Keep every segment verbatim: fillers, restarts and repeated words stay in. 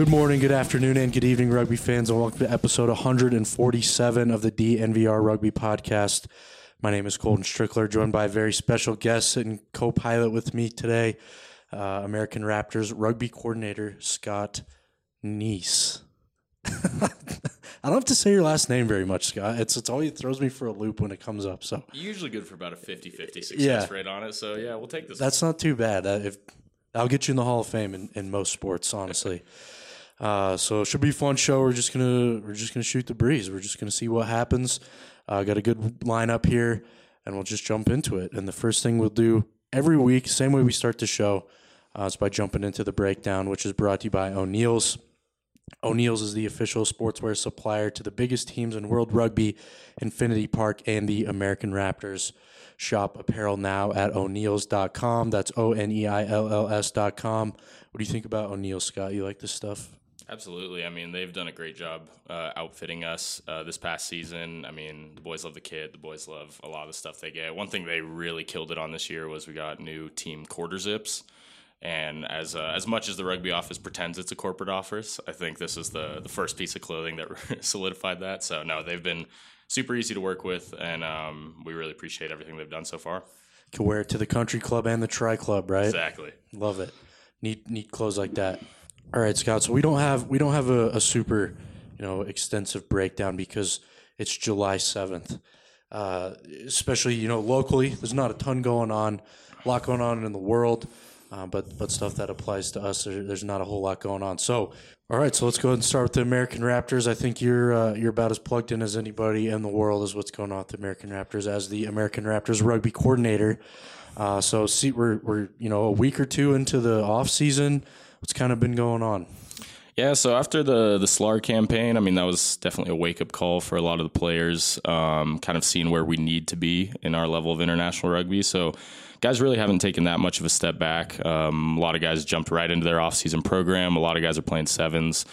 Good morning, good afternoon, and good evening, rugby fans, and welcome to episode one forty-seven of the D N V R Rugby Podcast. My name is Colton Strickler, joined by a very special guest and co-pilot with me today, uh, American Raptors rugby coordinator Scott Neese. I don't have to say your last name very much, Scott. It's it's always throws me for a loop when it comes up. So You're usually good for about a fifty-fifty success Yeah. rate on it, so yeah, we'll take this. that's not too bad. Uh, if I'll get you in the Hall of Fame in, in most sports, honestly. Uh, so it should be a fun show. We're just gonna we're just gonna shoot the breeze. We're just gonna see what happens. Uh, got a good lineup here, and we'll just jump into it. And the first thing we'll do every week, same way we start the show, uh, is by jumping into the breakdown, which is brought to you by O'Neill's. O'Neill's is the official sportswear supplier to the biggest teams in World Rugby, Infinity Park, and the American Raptors. Shop apparel now at O'Neills dot com. That's O N E I L L S dot com. What do you think about O'Neill's, Scott? You like this stuff? Absolutely. I mean, they've done a great job uh, outfitting us uh, this past season. I mean, the boys love the kit. The boys love a lot of the stuff they get. One thing they really killed it on this year was we got new team quarter zips. And as uh, as much as the rugby office pretends it's a corporate office, I think this is the, the first piece of clothing that solidified that. So, no, they've been super easy to work with, and um, we really appreciate everything they've done so far. Can wear it to the country club and the tri club, right? Exactly. Love it. Neat, neat clothes like that. All right, Scott. So we don't have we don't have a, a super, you know, extensive breakdown because it's July seventh. Uh, especially, you know, locally, there's not a ton going on, a lot going on in the world, uh, but but stuff that applies to us, there, there's not a whole lot going on. So, all right, so let's go ahead and start with the American Raptors. I think you're uh, you're about as plugged in as anybody in the world as what's going on with the American Raptors as the American Raptors rugby coordinator. Uh, so, see, we're we're you know a week or two into the off season. What's kind of been going on? Yeah, so after the the S L A R campaign, I mean, that was definitely a wake-up call for a lot of the players, um, kind of seeing where we need to be in our level of international rugby. So guys really haven't taken that much of a step back. Um, a lot of guys jumped right into their off-season program. A lot of guys are playing sevens.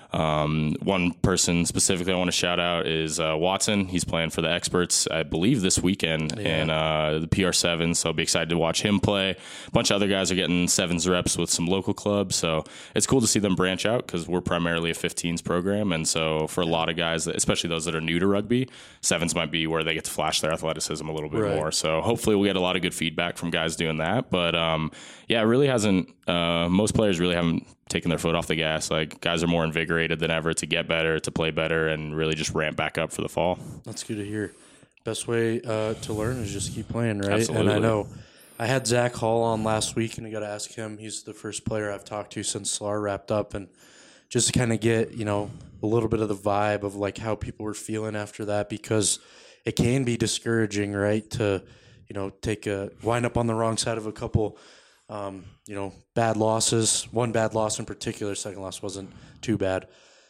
Um, one person specifically I want to shout out is uh, Watson. He's playing for the Experts, I believe, this weekend Yeah. in uh, the P R seven, so I'll be excited to watch him play. A bunch of other guys are getting sevens reps with some local clubs, so it's cool to see them branch out because we're primarily a fifteens program, and so for a lot of guys, especially those that are new to rugby, sevens might be where they get to flash their athleticism a little bit Right. more. So hopefully we'll get a lot of good feedback from guys doing that, but um, yeah, it really hasn't, uh, most players really haven't taking their foot off the gas. Like, guys are more invigorated than ever to get better, to play better, and really just ramp back up for the fall. That's good to hear. Best way uh, to learn is just keep playing, right? Absolutely. And I know I had Zach Hall on last week, and I got to ask him. He's the first player I've talked to since S L A R wrapped up, and just to kind of get, you know, a little bit of the vibe of like how people were feeling after that, because it can be discouraging, right? To, you know, take a wind up on the wrong side of a couple Um, you know, bad losses. One bad loss in particular. Second loss wasn't too bad.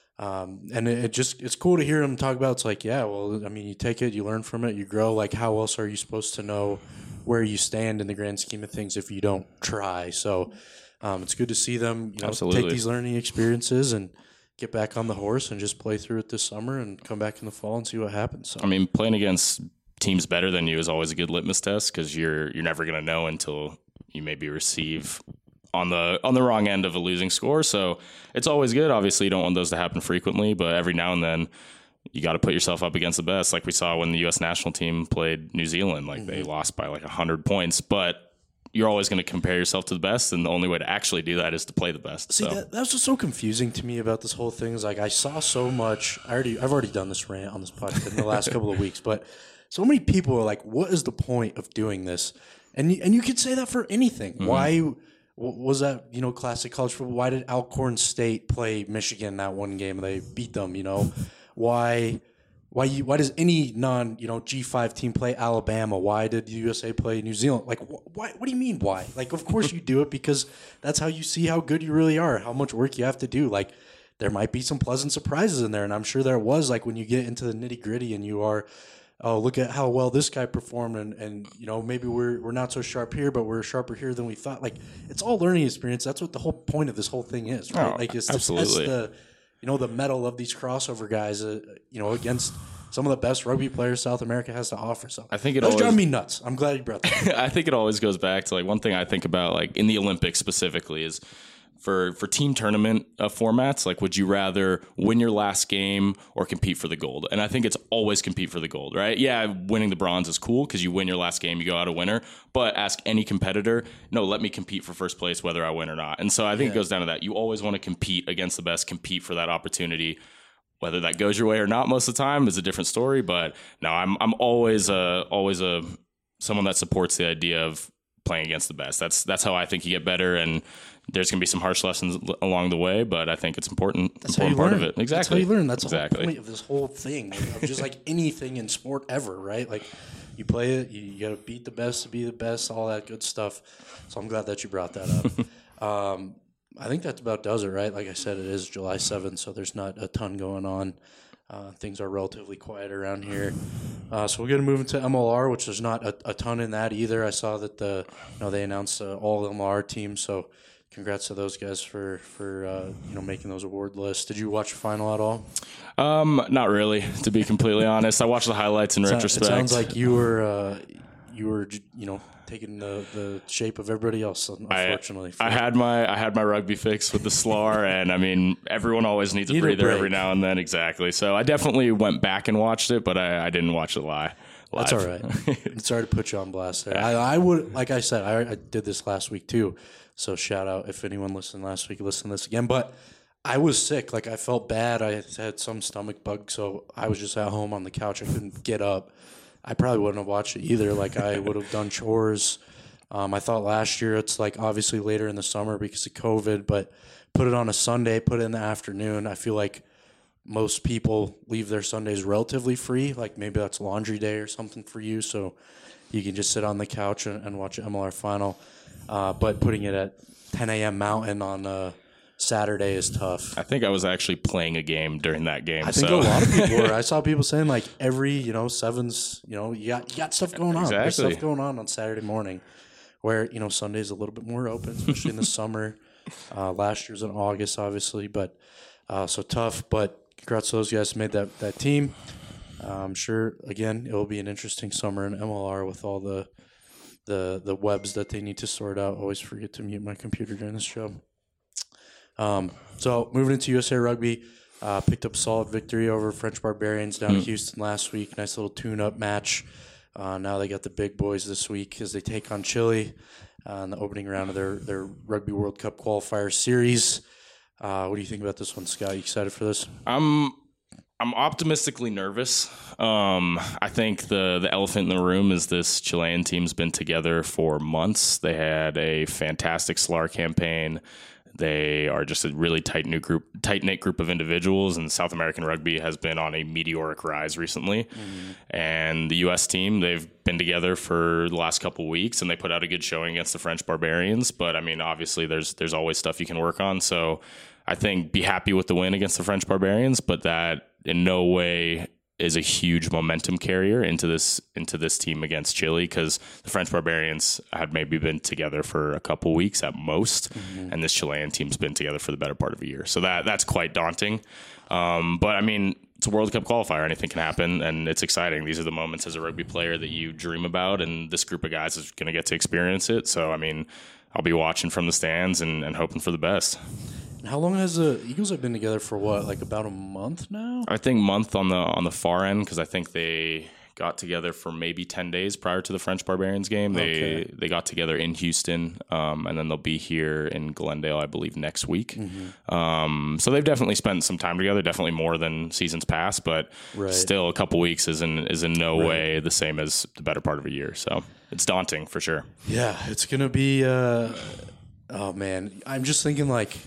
Um, and it, it just it's cool to hear him talk about. It's like, yeah, well, I mean, you take it, you learn from it, you grow. Like, how else are you supposed to know where you stand in the grand scheme of things if you don't try? So um, it's good to see them, you know, Absolutely. take these learning experiences and get back on the horse and just play through it this summer and come back in the fall and see what happens. So. I mean, playing against teams better than you is always a good litmus test because you're you're never going to know until you maybe receive on the on the wrong end of a losing score. So it's always good. Obviously, you don't want those to happen frequently, but every now and then you got to put yourself up against the best. Like we saw when the U S national team played New Zealand, like mm-hmm. they lost by like one hundred points, but you're always going to compare yourself to the best, and the only way to actually do that is to play the best. See, so. that, that's what's so confusing to me about this whole thing is like I saw so much. I already, I've already done this rant on this podcast in the last couple of weeks, but so many people are like, "What is the point of doing this?" And you, and you could say that for anything. Mm-hmm. Why w- was that? You know, classic college football. Why did Alcorn State play Michigan that one game? They beat them. You know, why? Why you? Why does any non you know G five team play Alabama? Why did the U S A play New Zealand? Like, wh- why? What do you mean? Why? Like, of course you do it because that's how you see how good you really are, how much work you have to do. Like, there might be some pleasant surprises in there, and I'm sure there was. Like when you get into the nitty gritty and you are. Oh, look at how well this guy performed, and, and you know maybe we're we're not so sharp here, but we're sharper here than we thought. Like it's all learning experience. That's what the whole point of this whole thing is, right? Oh, like it's absolutely. the you know the mettle of these crossover guys, uh, you know, against some of the best rugby players South America has to offer. So I think it that's always driving me nuts. I'm glad you brought that. I think it always goes back to like one thing I think about like in the Olympics specifically is for for team tournament uh, formats, like would you rather win your last game or compete for the gold? And I think it's always compete for the gold, right? Yeah, winning the bronze is cool because you win your last game, you go out a winner. But ask any competitor, no, let me compete for first place whether I win or not. And so I think yeah. it goes down to that. You always want to compete against the best, compete for that opportunity. Whether that goes your way or not most of the time is a different story. But no, I'm I'm always a always a someone that supports the idea of playing against the best. That's that's how I think you get better, and there's going to be some harsh lessons along the way, but I think it's important. That's important how you part learn. of it. Exactly. That's how you learn. That's exactly. the whole point of this whole thing, of just like anything in sport ever, right? Like you play it, you, you got to beat the best to be the best, all that good stuff. So I'm glad that you brought that up. um, I think that about does it, right? Like I said, it is July seventh, so there's not a ton going on. Uh, things are relatively quiet around here. Uh, so we're going to move into M L R, which there's not a, a ton in that either. I saw that the you know they announced uh, all M L R teams, so congrats to those guys for for uh, you know making those award lists. Did you watch the final at all? Um, not really, to be completely honest. I watched the highlights in it retrospect. Sounds, it sounds like you were uh, you were you know taking the, the shape of everybody else. Unfortunately, I, I had my I had my rugby fix with the S L A R, and I mean everyone always needs a Need breather a every now and then. Exactly. So I definitely went back and watched it, but I, I didn't watch it live. That's all right. Sorry to put you on blast there. I, I would, like I said, I, I did this last week too. So shout out if anyone listened last week, listen to this again. But I was sick. Like I felt bad. I had some stomach bug, so I was just at home on the couch. I couldn't get up. I probably wouldn't have watched it either. Like I would have done chores. Um, I thought last year it's like obviously later in the summer because of COVID, but put it on a Sunday, put it in the afternoon. I feel like most people leave their Sundays relatively free. Like maybe that's laundry day or something for you, so you can just sit on the couch and, and watch an M L R final. Uh, but putting it at ten a.m. Mountain on uh, Saturday is tough. I think I was actually playing a game during that game. I think so. a lot of people were. I saw people saying like every, you know, sevens, you know, you got, you got stuff going on. Exactly. There's stuff going on on Saturday morning where, you know, Sunday's a little bit more open, especially in the summer. Uh, last year's in August, obviously, but uh, so tough. But congrats to those guys who made that, that team. Uh, I'm sure, again, it will be an interesting summer in M L R with all the the the webs that they need to sort out. Always forget to mute my computer during this show. Um, so moving into U S A Rugby, uh, picked up a solid victory over French Barbarians down mm. in Houston last week. Nice little tune-up match. Uh, now they got the big boys this week as they take on Chile uh, in the opening round of their, their Rugby World Cup qualifier series. Uh, what do you think about this one, Scott? You excited for this? I'm I'm optimistically nervous. Um, I think the the elephant in the room is this Chilean team's been together for months. They had a fantastic S L A R campaign. They are just a really tight knit group, tight knit group of individuals, and South American rugby has been on a meteoric rise recently. Mm-hmm. And the U S team, they've been together for the last couple of weeks, and they put out a good showing against the French Barbarians. But I mean, obviously, there's there's always stuff you can work on. So I think be happy with the win against the French Barbarians, but that in no way is a huge momentum carrier into this into this team against Chile, because the French Barbarians had maybe been together for a couple weeks at most, mm-hmm. and this Chilean team's been together for the better part of a year. So that that's quite daunting. Um, but I mean, it's a World Cup qualifier. Anything can happen, and it's exciting. These are the moments as a rugby player that you dream about, and this group of guys is going to get to experience it. So I mean, I'll be watching from the stands and, and hoping for the best. How long has the Eagles have been together for? What, like about a month now? I think month on the on the far end, because I think they got together for maybe ten days prior to the French Barbarians game. They okay. they got together in Houston, um, and then they'll be here in Glendale, I believe, next week. Mm-hmm. Um, so they've definitely spent some time together, definitely more than seasons past, but right. still a couple weeks is in is in no right. way the same as the better part of a year. So it's daunting for sure. Yeah, it's gonna be. Uh, oh man, I'm just thinking like.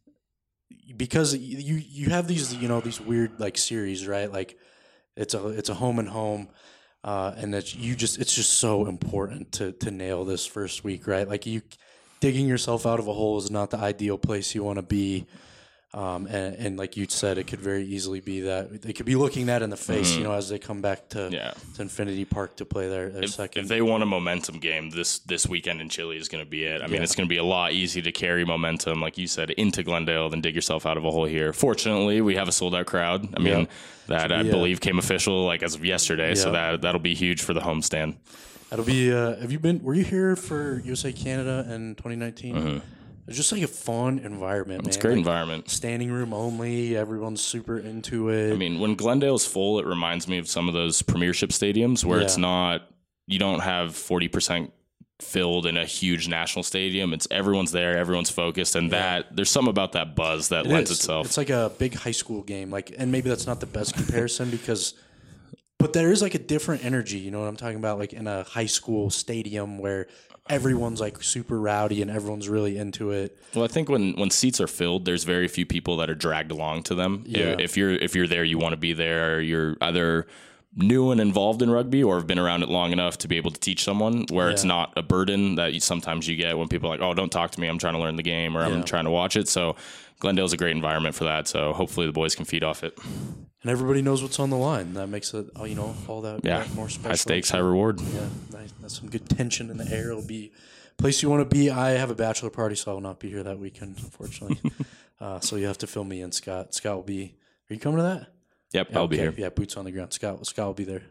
Because you you have these you know these weird like series, right? Like it's a it's a home and home, uh, and that you just it's just so important to to nail this first week, right? Like you digging yourself out of a hole is not the ideal place you want to be. Um, and, and like you said, it could very easily be that they could be looking that in the face, mm-hmm. you know, as they come back to, yeah. to Infinity Park to play their, their if, second. If they want a momentum game, this this weekend in Chile is going to be it. I mean, yeah. it's going to be a lot easier to carry momentum, like you said, into Glendale than dig yourself out of a hole here. Fortunately, we have a sold out crowd. I mean, yeah. that I yeah. believe came official like as of yesterday, yeah. so that that'll be huge for the homestand. That'll be. Uh, have you been? Were you here for U S A Canada in twenty nineteen? Mm-hmm. It's just like a fun environment, man. It's a great like, environment. Standing room only. Everyone's super into it. I mean, when Glendale's full, it reminds me of some of those premiership stadiums where Yeah. it's not, you don't have forty percent filled in a huge national stadium. It's everyone's there, everyone's focused, and Yeah. that there's something about that buzz that It lends is. itself. It's like a big high school game. Like, and maybe that's not the best comparison because, but there is like a different energy. You know what I'm talking about? Like in a high school stadium where everyone's like super rowdy and everyone's really into it. Well, I think when, when seats are filled, there's very few people that are dragged along to them. Yeah. If you're if you're there, you want to be there. Or you're either new and involved in rugby or have been around it long enough to be able to teach someone where it's Yeah. not a burden that you, sometimes you get when people are like, oh, don't talk to me. I'm trying to learn the game or Yeah. I'm trying to watch it. So Glendale's a great environment for that. So hopefully the boys can feed off it. And everybody knows what's on the line. That makes it, oh, you know, all that, Yeah. that more special. High stakes, high reward. Yeah, nice. That's some good tension in the air. It'll be a place you want to be. I have a bachelor party, so I will not be here that weekend, unfortunately. uh, so you have to fill me in, Scott. Scott will be. Are you coming to that? Yep, Yeah, I'll be okay. here. Yeah, boots on the ground. Scott, Scott will be there.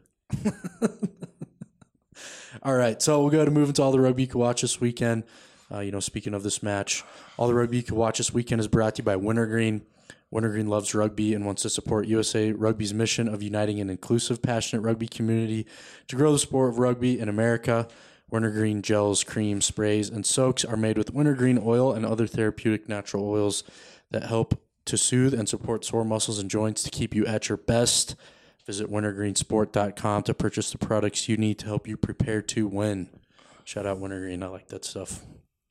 All right, so we'll go to move into all the rugby you can watch this weekend. Uh, you know, speaking of this match, all the rugby you can watch this weekend is brought to you by Wintergreen. Wintergreen loves rugby and wants to support U S A Rugby's mission of uniting an inclusive, passionate rugby community to grow the sport of rugby in America. Wintergreen gels, creams, sprays, and soaks are made with wintergreen oil and other therapeutic natural oils that help to soothe and support sore muscles and joints to keep you at your best. Visit wintergreen sport dot com to purchase the products you need to help you prepare to win. Shout out Wintergreen. I like that stuff.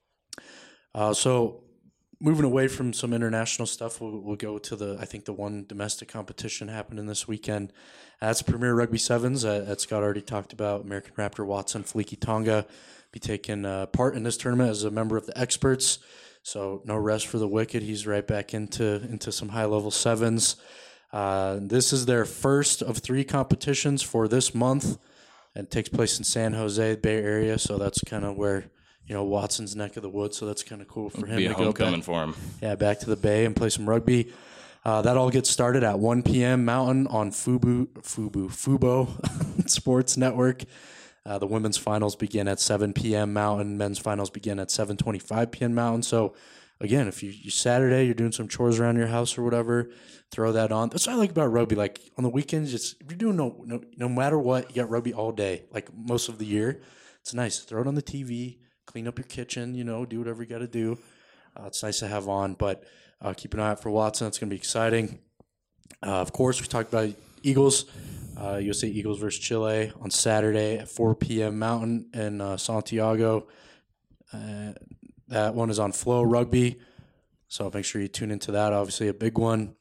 Uh, so moving away from some international stuff, we'll, we'll go to the, I think the one domestic competition happening this weekend. That's Premier Rugby Sevens uh, that Scott already talked about. American Raptor Watson Fleeky Tonga be taking uh, part in this tournament as a member of the experts. So no rest for the wicked. He's right back into into some high level sevens. Uh, this is their first of three competitions for this month, and it takes place in San Jose, Bay Area. So that's kind of where, you know, Watson's neck of the woods. So that's kind of cool for him Be to a go homecoming back, for him. yeah, back to the Bay and play some rugby. Uh, that all gets started at one p.m. Mountain on Fubu Fubu Fubo Sports Network. Uh, the women's finals begin at seven p.m. Mountain. Men's finals begin at seven twenty-five p.m. Mountain. So, again, if you, you Saturday, you're doing some chores around your house or whatever, throw that on. That's what I like about rugby. Like, on the weekends, it's, if you're doing no, no no matter what, you got rugby all day, like most of the year. It's nice. Throw it on the T V, clean up your kitchen, you know, do whatever you got to do. Uh, it's nice to have on, but uh, keep an eye out for Watson. It's going to be exciting. Uh, of course, we talked about Eagles. Uh, U S A Eagles versus Chile on Saturday at four p.m. Mountain in uh, Santiago. Uh, that one is on Flow Rugby, so make sure you tune into that. Obviously, a big one.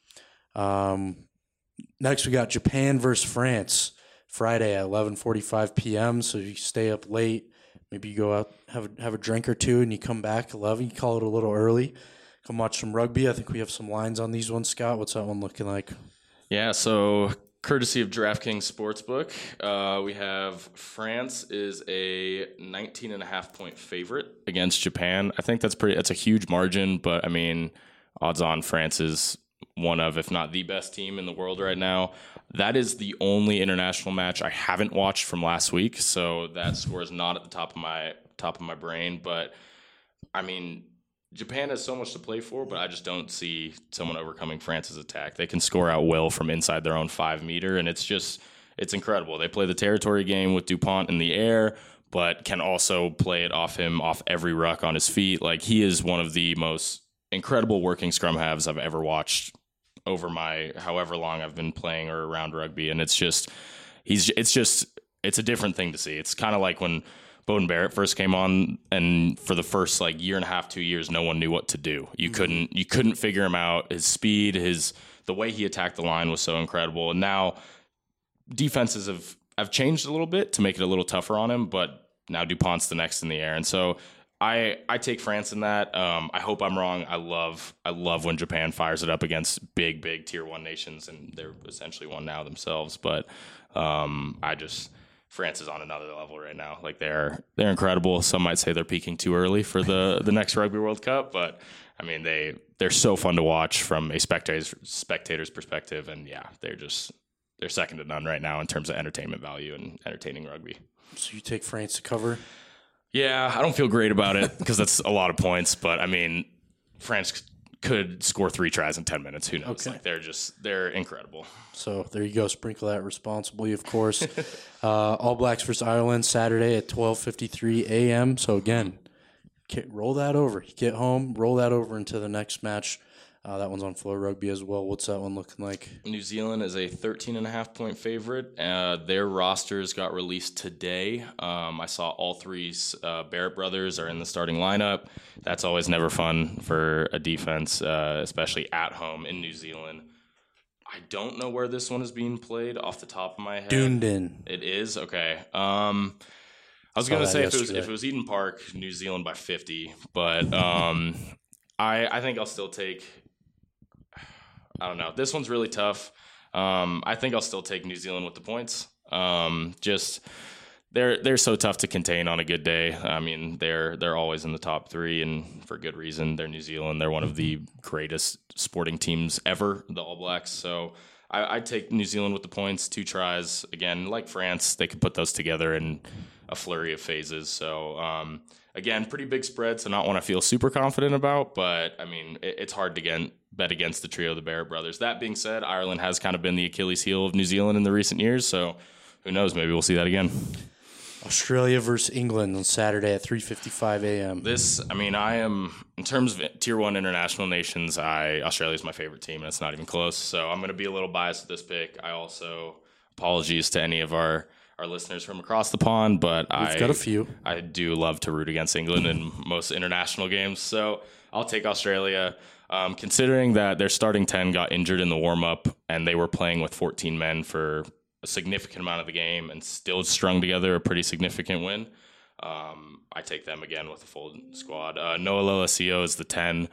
Um, next, we got Japan versus France Friday at eleven forty-five p.m. So you stay up late. Maybe you go out, have a, have a drink or two, and you come back eleven. You call it a little early. Come watch some rugby. I think we have some lines on these ones, Scott. What's that one looking like? Yeah, so courtesy of DraftKings Sportsbook, uh, we have France is a nineteen and a half point favorite against Japan. I think that's pretty. That's a huge margin, but I mean, odds on France is one of, if not the best team in the world right now. That is the only international match I haven't watched from last week, so that score is not at the top of my top of my brain. But I mean, Japan has so much to play for, but I just don't see someone overcoming France's attack. They can score out will from inside their own five meter, and it's just it's incredible. They play the territory game with Dupont in the air, but can also play it off him, off every ruck on his feet. Like, he is one of the most incredible working scrum halves I've ever watched over my however long I've been playing or around rugby, and it's just he's it's just it's a different thing to see. It's kind of like when Bowden Barrett first came on, and for the first like year and a half, two years, no one knew what to do. You mm-hmm. couldn't you couldn't figure him out. His speed, his the way he attacked the line was so incredible. And now defenses have have changed a little bit to make it a little tougher on him, but now Dupont's the next in the air, and so I I take France in that. Um, I hope I'm wrong. I love I love when Japan fires it up against big big tier one nations, and they're essentially one now themselves. But um, I just France is on another level right now. Like, they're they're incredible. Some might say they're peaking too early for the the next Rugby World Cup, but I mean they they're so fun to watch from a spectator's spectator's perspective, and yeah, they're just they're second to none right now in terms of entertainment value and entertaining rugby. So you take France to cover? Yeah, I don't feel great about it because that's a lot of points, but I mean, France could score three tries in ten minutes. Who knows? Okay. Like they're just they're incredible. So there you go. Sprinkle that responsibly, of course. uh, All Blacks versus Ireland Saturday at twelve fifty-three a.m. So again, roll that over. You get home, roll that over into the next match. Uh, that one's on Flow Rugby as well. What's that one looking like? New Zealand is a thirteen and a half point favorite. Uh, their rosters got released today. Um, I saw all three uh, Barrett brothers are in the starting lineup. That's always never fun for a defense, uh, especially at home in New Zealand. I don't know where this one is being played off the top of my head. Dunedin. It is? Okay. Um, I was going to say if it, was, if it was Eden Park, New Zealand by fifty, but um, I, I think I'll still take... I don't know. This one's really tough. Um, I think I'll still take New Zealand with the points. Um, just they're they're so tough to contain on a good day. I mean, they're they're always in the top three, and for good reason. They're New Zealand. They're one of the greatest sporting teams ever, the All Blacks. So I, I'd take New Zealand with the points. Two tries again, like France, they could put those together in a flurry of phases. So. Um, Again, pretty big spread, so not one I feel super confident about, but, I mean, it, it's hard to get, bet against the trio of the Barrett brothers. That being said, Ireland has kind of been the Achilles heel of New Zealand in the recent years, so who knows, maybe we'll see that again. Australia versus England on Saturday at three fifty-five a.m. This, I mean, I am, in terms of tier one international nations, I Australia is my favorite team, and it's not even close, so I'm going to be a little biased with this pick. I also, apologies to any of our... our listeners from across the pond, but We've I got a few. I do love to root against England in most international games, so I'll take Australia. Um, considering that their starting ten got injured in the warm-up and they were playing with fourteen men for a significant amount of the game and still strung together a pretty significant win, um, I take them again with a full squad. Uh, Noah Lolesio is the ten.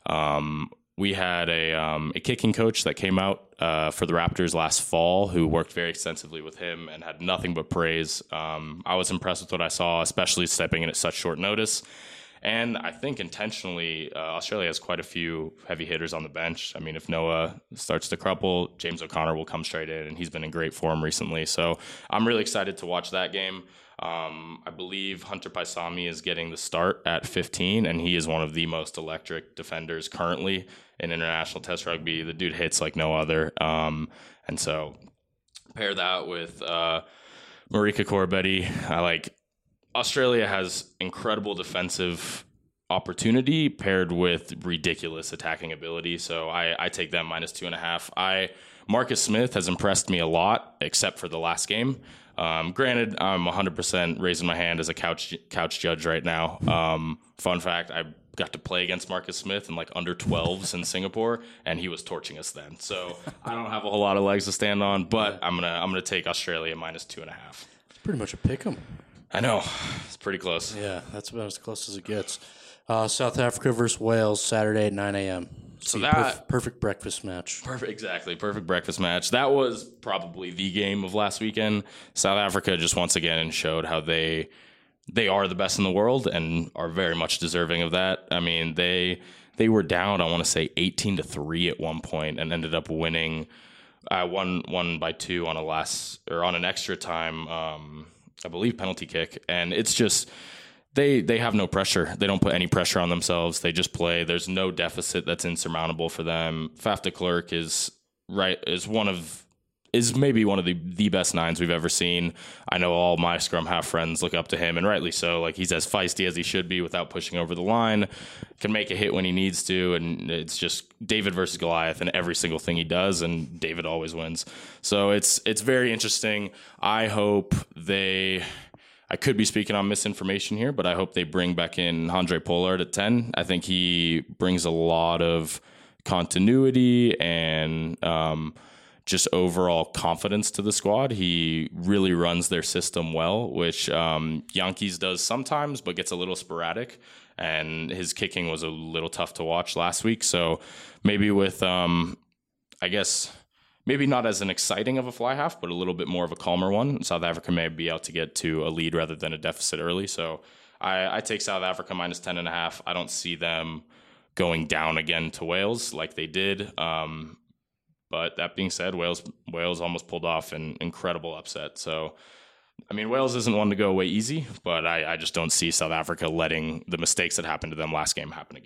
Um, We had a um, a kicking coach that came out uh, for the Raptors last fall who worked very extensively with him and had nothing but praise. Um, I was impressed with what I saw, especially stepping in at such short notice. And I think intentionally, uh, Australia has quite a few heavy hitters on the bench. I mean, if Noah starts to crumple, James O'Connor will come straight in, and he's been in great form recently. So I'm really excited to watch that game. Um, I believe Hunter Paisami is getting the start at fifteen, and he is one of the most electric defenders currently in international test rugby. The dude hits like no other. Um, and so pair that with uh, Marika Corabetti. I like Australia has incredible defensive opportunity paired with ridiculous attacking ability. So I, I take them minus two and a half. I Marcus Smith has impressed me a lot, except for the last game. Um, granted, I'm one hundred percent raising my hand as a couch couch judge right now. Um, fun fact, I got to play against Marcus Smith in like under twelves in Singapore, and he was torching us then. So I don't have a whole lot of legs to stand on, but I'm gonna I'm gonna take Australia minus two and a half. It's pretty much a pick 'em. I know, it's pretty close. Yeah, that's about as close as it gets. Uh, South Africa versus Wales Saturday at nine a.m. So See, that perf- perfect breakfast match. Perfect, exactly. Perfect breakfast match. That was probably the game of last weekend. South Africa just once again showed how they they are the best in the world and are very much deserving of that. I mean, they they were down, I want to say eighteen to three at one point and ended up winning uh, one one by two on a last or on an extra time, um, I believe penalty kick. And it's just They they have no pressure. They don't put any pressure on themselves. They just play. There's no deficit that's insurmountable for them. Faf de Klerk is right is one of is maybe one of the, the best nines we've ever seen. I know all my scrum half friends look up to him, and rightly so. Like, he's as feisty as he should be without pushing over the line. Can make a hit when he needs to, and it's just David versus Goliath in every single thing he does, and David always wins. So it's it's very interesting. I hope they. I could be speaking on misinformation here, but I hope they bring back in Handré Pollard at ten. I think he brings a lot of continuity and um, just overall confidence to the squad. He really runs their system well, which um, Yankees does sometimes, but gets a little sporadic. And his kicking was a little tough to watch last week. So maybe with, um, I guess... Maybe not as an exciting of a fly half, but a little bit more of a calmer one. South Africa may be able to get to a lead rather than a deficit early. So I, I take South Africa minus ten and a half. I don't see them going down again to Wales like they did. Um, but that being said, Wales Wales almost pulled off an incredible upset. So, I mean, Wales isn't one to go away easy, but I, I just don't see South Africa letting the mistakes that happened to them last game happen again.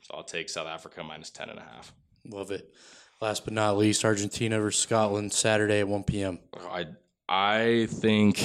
So I'll take South Africa minus ten and a half. Love it. Last but not least, Argentina versus Scotland, Saturday at one p.m. I I think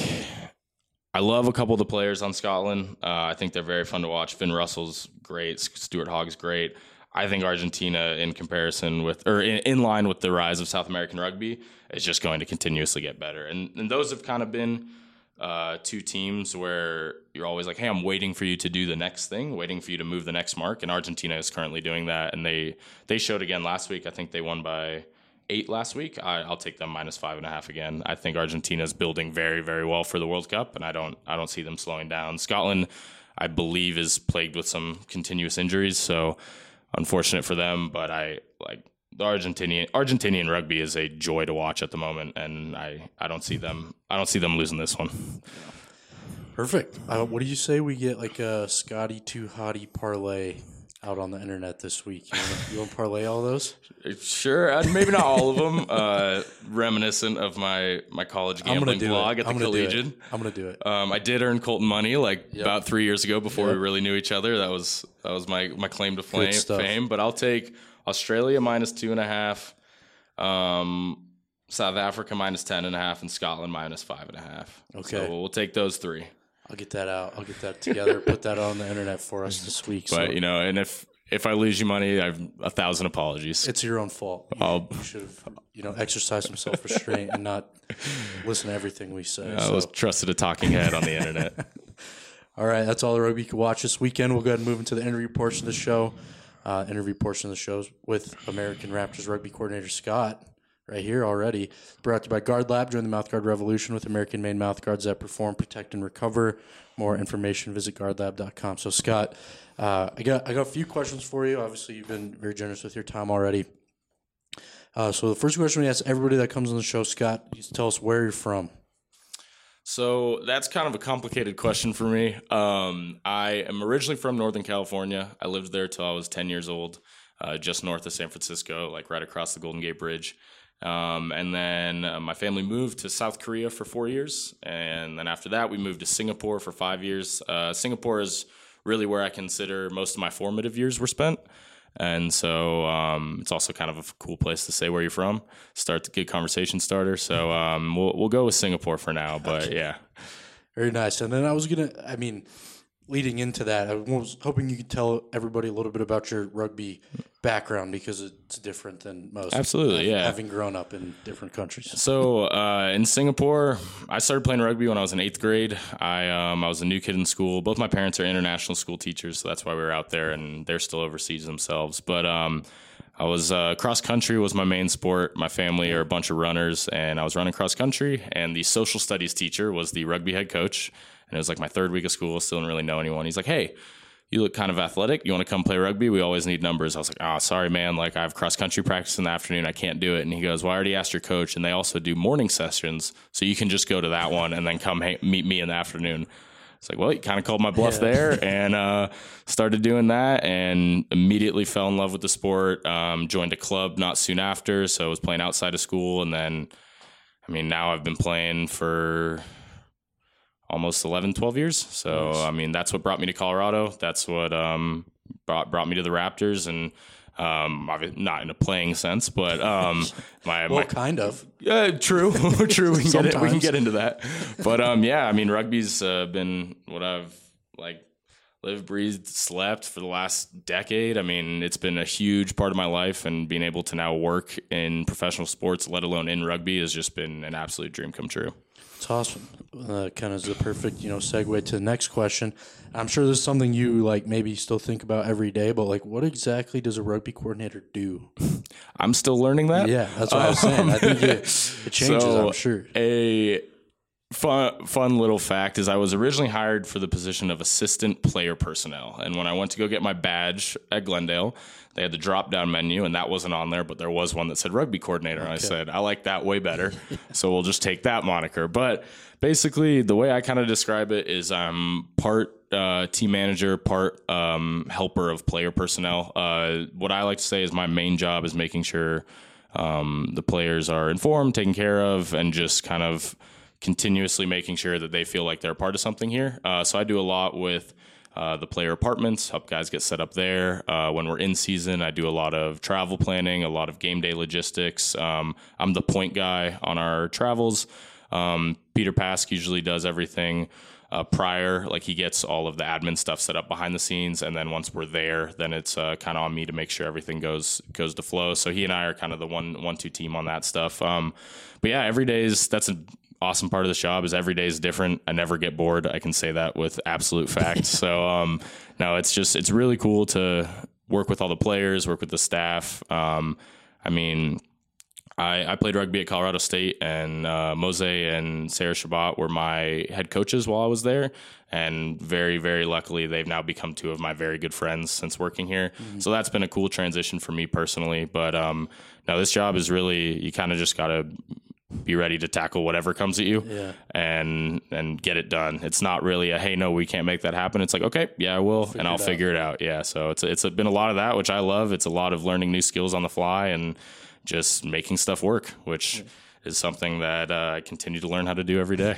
I love a couple of the players on Scotland. Uh, I think they're very fun to watch. Finn Russell's great. Stuart Hogg's great. I think Argentina, in comparison with, or in, in line with the rise of South American rugby, is just going to continuously get better. And, and those have kind of been uh, two teams where you're always like, hey, I'm waiting for you to do the next thing, waiting for you to move the next mark. And Argentina is currently doing that. And they, they showed again last week. I think they won by eight last week. I, I'll take them minus five and a half again. I think Argentina is building very, very well for the World Cup, and I don't, I don't see them slowing down. Scotland, I believe, is plagued with some continuous injuries, so unfortunate for them. But I like the Argentinian Argentinian rugby is a joy to watch at the moment, and I, I don't see them, I don't see them losing this one. Perfect. Uh, what do you say we get like a Scotty Too Hottie parlay out on the internet this week? You want to you wanna parlay all those? Sure, uh, maybe not all of them. Uh, reminiscent of my, my college gambling blog it. at the Collegian. I'm gonna do it. Um, I did earn Colton money like Yep. about three years ago before Yep. we really knew each other. That was that was my my claim to flame, stuff. fame. But I'll take Australia minus two and a half, um, South Africa minus ten and a half, and Scotland minus five and a half. Okay. So we'll take those three. I'll get that out. I'll get that together. Put that on the internet for us this week. But so you know, and if if I lose you money, I've a thousand apologies. it's your own fault. You, I'll- you should have, you know, exercised some self restraint and not listen to everything we say. I so. was trusted a talking head on the internet. All right, that's all the rugby you can watch this weekend. We'll go ahead and move into the interview portion of the show. Uh, interview portion of the show with American Raptors rugby coordinator Scott, right here already. Brought to you by Guard Lab. Join the mouthguard revolution with American-made mouthguards that perform, protect, and recover. More information, visit guard lab dot com. So, Scott, uh, I got I got a few questions for you. Obviously, you've been very generous with your time already. Uh, so, the first question we ask everybody that comes on the show, Scott, you tell us where you're from. So that's kind of a complicated question for me. Um, I am originally from Northern California. I lived there till I was ten years old, uh, just north of San Francisco, like right across the Golden Gate Bridge. Um, and then uh, my family moved to South Korea for four years. And then after that, we moved to Singapore for five years. Uh, Singapore is really where I consider most of my formative years were spent. And so um, it's also kind of a cool place to say where you're from. Start the good conversation starter. So um, we'll we'll go with Singapore for now. But Okay. yeah, Very nice. And then I was going to, I mean, leading into that, I was hoping you could tell everybody a little bit about your rugby background because it's different than most. Absolutely, yeah. Having grown up in different countries. So uh, in Singapore, I started playing rugby when I was in eighth grade. I um, I was a new kid in school. Both my parents are international school teachers, so that's why we were out there, and they're still overseas themselves. But um, I was uh, cross country was my main sport. My family are a bunch of runners, and I was running cross country. And the social studies teacher was the rugby head coach, and it was like my third week of school. Still didn't really know anyone. He's like, "Hey, you look kind of athletic. You want to come play rugby? We always need numbers." I was like, "Oh, sorry, man. Like I have cross country practice in the afternoon. I can't do it." And he goes, "Well, I already asked your coach, and they also do morning sessions, so you can just go to that one and then come hang- meet me in the afternoon." It's like, well, you kind of called my bluff Yeah. there, and uh, started doing that, and immediately fell in love with the sport. Um, joined a club not soon after, so I was playing outside of school, and then, I mean, now I've been playing for almost eleven, twelve years. So, Nice. I mean, that's what brought me to Colorado. That's what um, brought brought me to the Raptors, and um, obvi- not in a playing sense, but um, my Well, my kind of. yeah, true, true. We can get it, we can Sometimes. get into that, but um, yeah, I mean, rugby's uh, been what I've like lived, breathed, slept for the last decade. I mean, it's been a huge part of my life, and being able to now work in professional sports, let alone in rugby, has just been an absolute dream come true. It's awesome. Uh, kind of is the perfect, you know, segue to the next question. I'm sure this is something you like maybe still think about every day, but like, what exactly does a rugby coordinator do? I'm still learning that. Yeah, that's what I was saying. I think it, it changes. So, I'm sure. A fun, fun little fact is I was originally hired for the position of assistant player personnel. And when I went to go get my badge at Glendale, they had the drop down menu, and that wasn't on there, but there was one that said rugby coordinator. And I said, I like that way better. So we'll just take that moniker. But basically, the way I kind of describe it is I'm part uh, team manager, part um, helper of player personnel. Uh, what I like to say is my main job is making sure um, the players are informed, taken care of, and just kind of continuously making sure that they feel like they're a part of something here. Uh, so I do a lot with uh, the player apartments, help guys get set up there. Uh, when we're in season, I do a lot of travel planning, a lot of game day logistics. Um, I'm the point guy on our travels. Um, Peter Pask usually does everything uh, prior, like he gets all of the admin stuff set up behind the scenes, and then once we're there, then it's uh, kind of on me to make sure everything goes goes to flow. So he and I are kind of the one one two team on that stuff. Um, but yeah, every day is that's an awesome part of this job is every day is different. I never get bored. I can say that with absolute fact. so um, no, it's just it's really cool to work with all the players, work with the staff. Um, I mean. I, I played rugby at Colorado State, and uh, Mose and Sarah Shabbat were my head coaches while I was there. And very, very luckily, they've now become two of my very good friends since working here. Mm-hmm. So that's been a cool transition for me personally. But um, no, this job is really, you kind of just got to be ready to tackle whatever comes at you yeah. and and get it done. It's not really a, hey, no, we can't make that happen. It's like, okay, yeah, I will, figure and I'll it figure it out. Yeah, so it's, it's been a lot of that, which I love. It's a lot of learning new skills on the fly and just making stuff work, which yeah. is something that uh, I continue to learn how to do every day.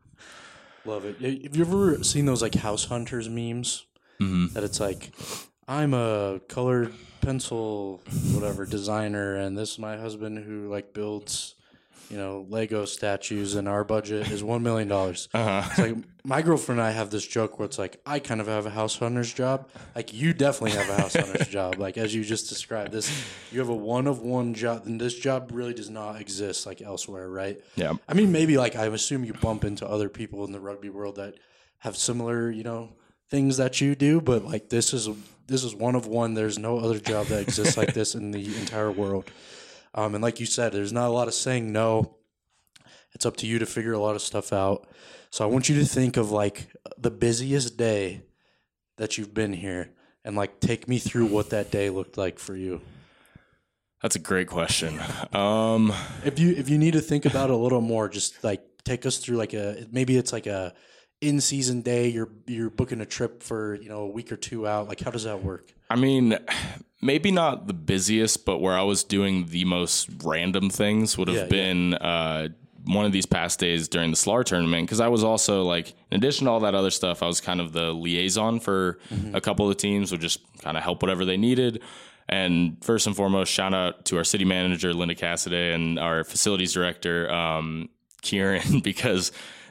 Love it. Have you ever seen those like house hunters memes? Mm-hmm. That it's like, I'm a colored pencil, whatever, designer, and this is my husband who like builds, you know, Lego statues, and our budget is one million dollars. Uh-huh. It's like my girlfriend and I have this joke where it's like, I kind of have a house hunter's job. Like you definitely have a house hunter's job. Like as you just described this, you have a one of one job, and this job really does not exist like elsewhere, right? Yeah. I mean, maybe like I assume you bump into other people in the rugby world that have similar, you know, things that you do, but like this is this is one of one. There's no other job that exists like this in the entire world. Um, and like you said, there's not a lot of saying no. It's up to you to figure a lot of stuff out. So I want you to think of like the busiest day that you've been here and like take me through what that day looked like for you. That's a great question. Um, if you if you need to think about it a little more, just like take us through like a maybe it's like a in season day. You're you're booking a trip for you know a week or two out. Like how does that work? I mean, maybe not the busiest, but where I was doing the most random things would have yeah, been yeah. Uh, one of these past days during the S L A R tournament, because I was also like, in addition to all that other stuff, I was kind of the liaison for mm-hmm. a couple of the teams, would just kind of help whatever they needed. And first and foremost, shout out to our city manager, Linda Cassidy, and our facilities director, um, Kieran, because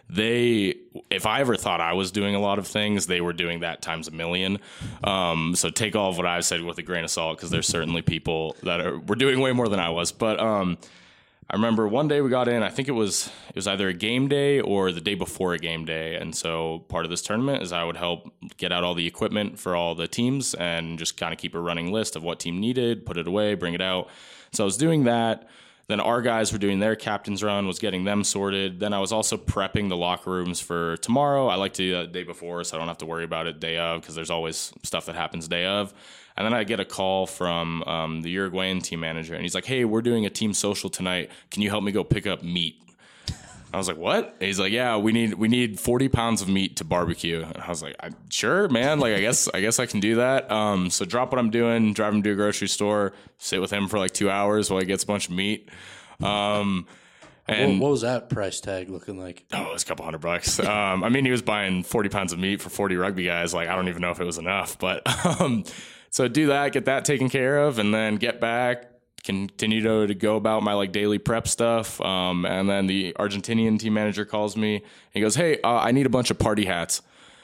they, if I ever thought I was doing a lot of things, they were doing that times a million. Um, so take all of what I've said with a grain of salt, because there's certainly people that are were doing way more than I was. But um, I remember one day we got in, I think it was it was either a game day or the day before a game day. And so part of this tournament is I would help get out all the equipment for all the teams and just kind of keep a running list of what team needed, put it away, bring it out. So I was doing that. Then our guys were doing their captain's run, was getting them sorted. Then I was also prepping the locker rooms for tomorrow. I like to do that the day before, so I don't have to worry about it day of, because there's always stuff that happens day of. And then I get a call from um, the Uruguayan team manager, and he's like, hey, we're doing a team social tonight. Can you help me go pick up meat? I was like, what? And he's like, yeah, we need we need forty pounds of meat to barbecue. And I was like, I, sure, man. Like, I guess I guess I can do that. Um, so drop what I'm doing, drive him to a grocery store, sit with him for like two hours while he gets a bunch of meat. Um, and what, what was that price tag looking like? Oh, it was a couple hundred bucks. Um, I mean, he was buying forty pounds of meat for forty rugby guys. Like, I don't even know if it was enough. But um, so do that, get that taken care of, and then get back. Continue to, to go about my like daily prep stuff. Um, and then the Argentinian team manager calls me. And he goes, hey, uh, I need a bunch of party hats.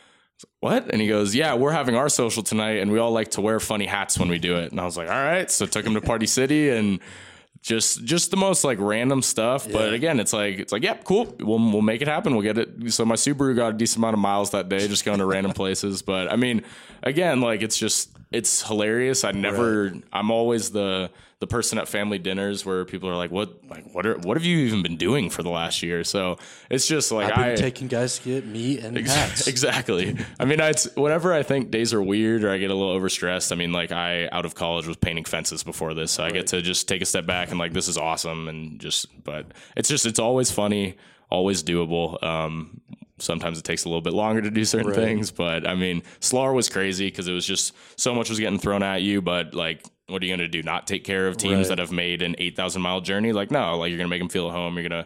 What? And he goes, yeah, we're having our social tonight, and we all like to wear funny hats when we do it. And I was like, all right. So took him to Party City, and just just the most like random stuff. Yeah. But again, it's like, it's like, yep, yeah, cool. We'll, we'll make it happen. We'll get it. So my Subaru got a decent amount of miles that day, just going to random places. But I mean, again, like it's just, it's hilarious. I never, right. I'm always the, the person at family dinners where people are like, what, like, what are, what have you even been doing for the last year? So it's just like, I've been I taking guys to get meat and ex- hats. Exactly. I mean, it's whenever I think days are weird or I get a little overstressed. I mean, like I, out of college, was painting fences before this. So right. I get to just take a step back and like, this is awesome. And just, but it's just, it's always funny, always doable. Um, Sometimes it takes a little bit longer to do certain right. things, but I mean, S L A R was crazy because it was just so much was getting thrown at you. But like, what are you going to do? Not take care of teams right. that have made an eight thousand mile journey? Like, no, like you're going to make them feel at home. You're going to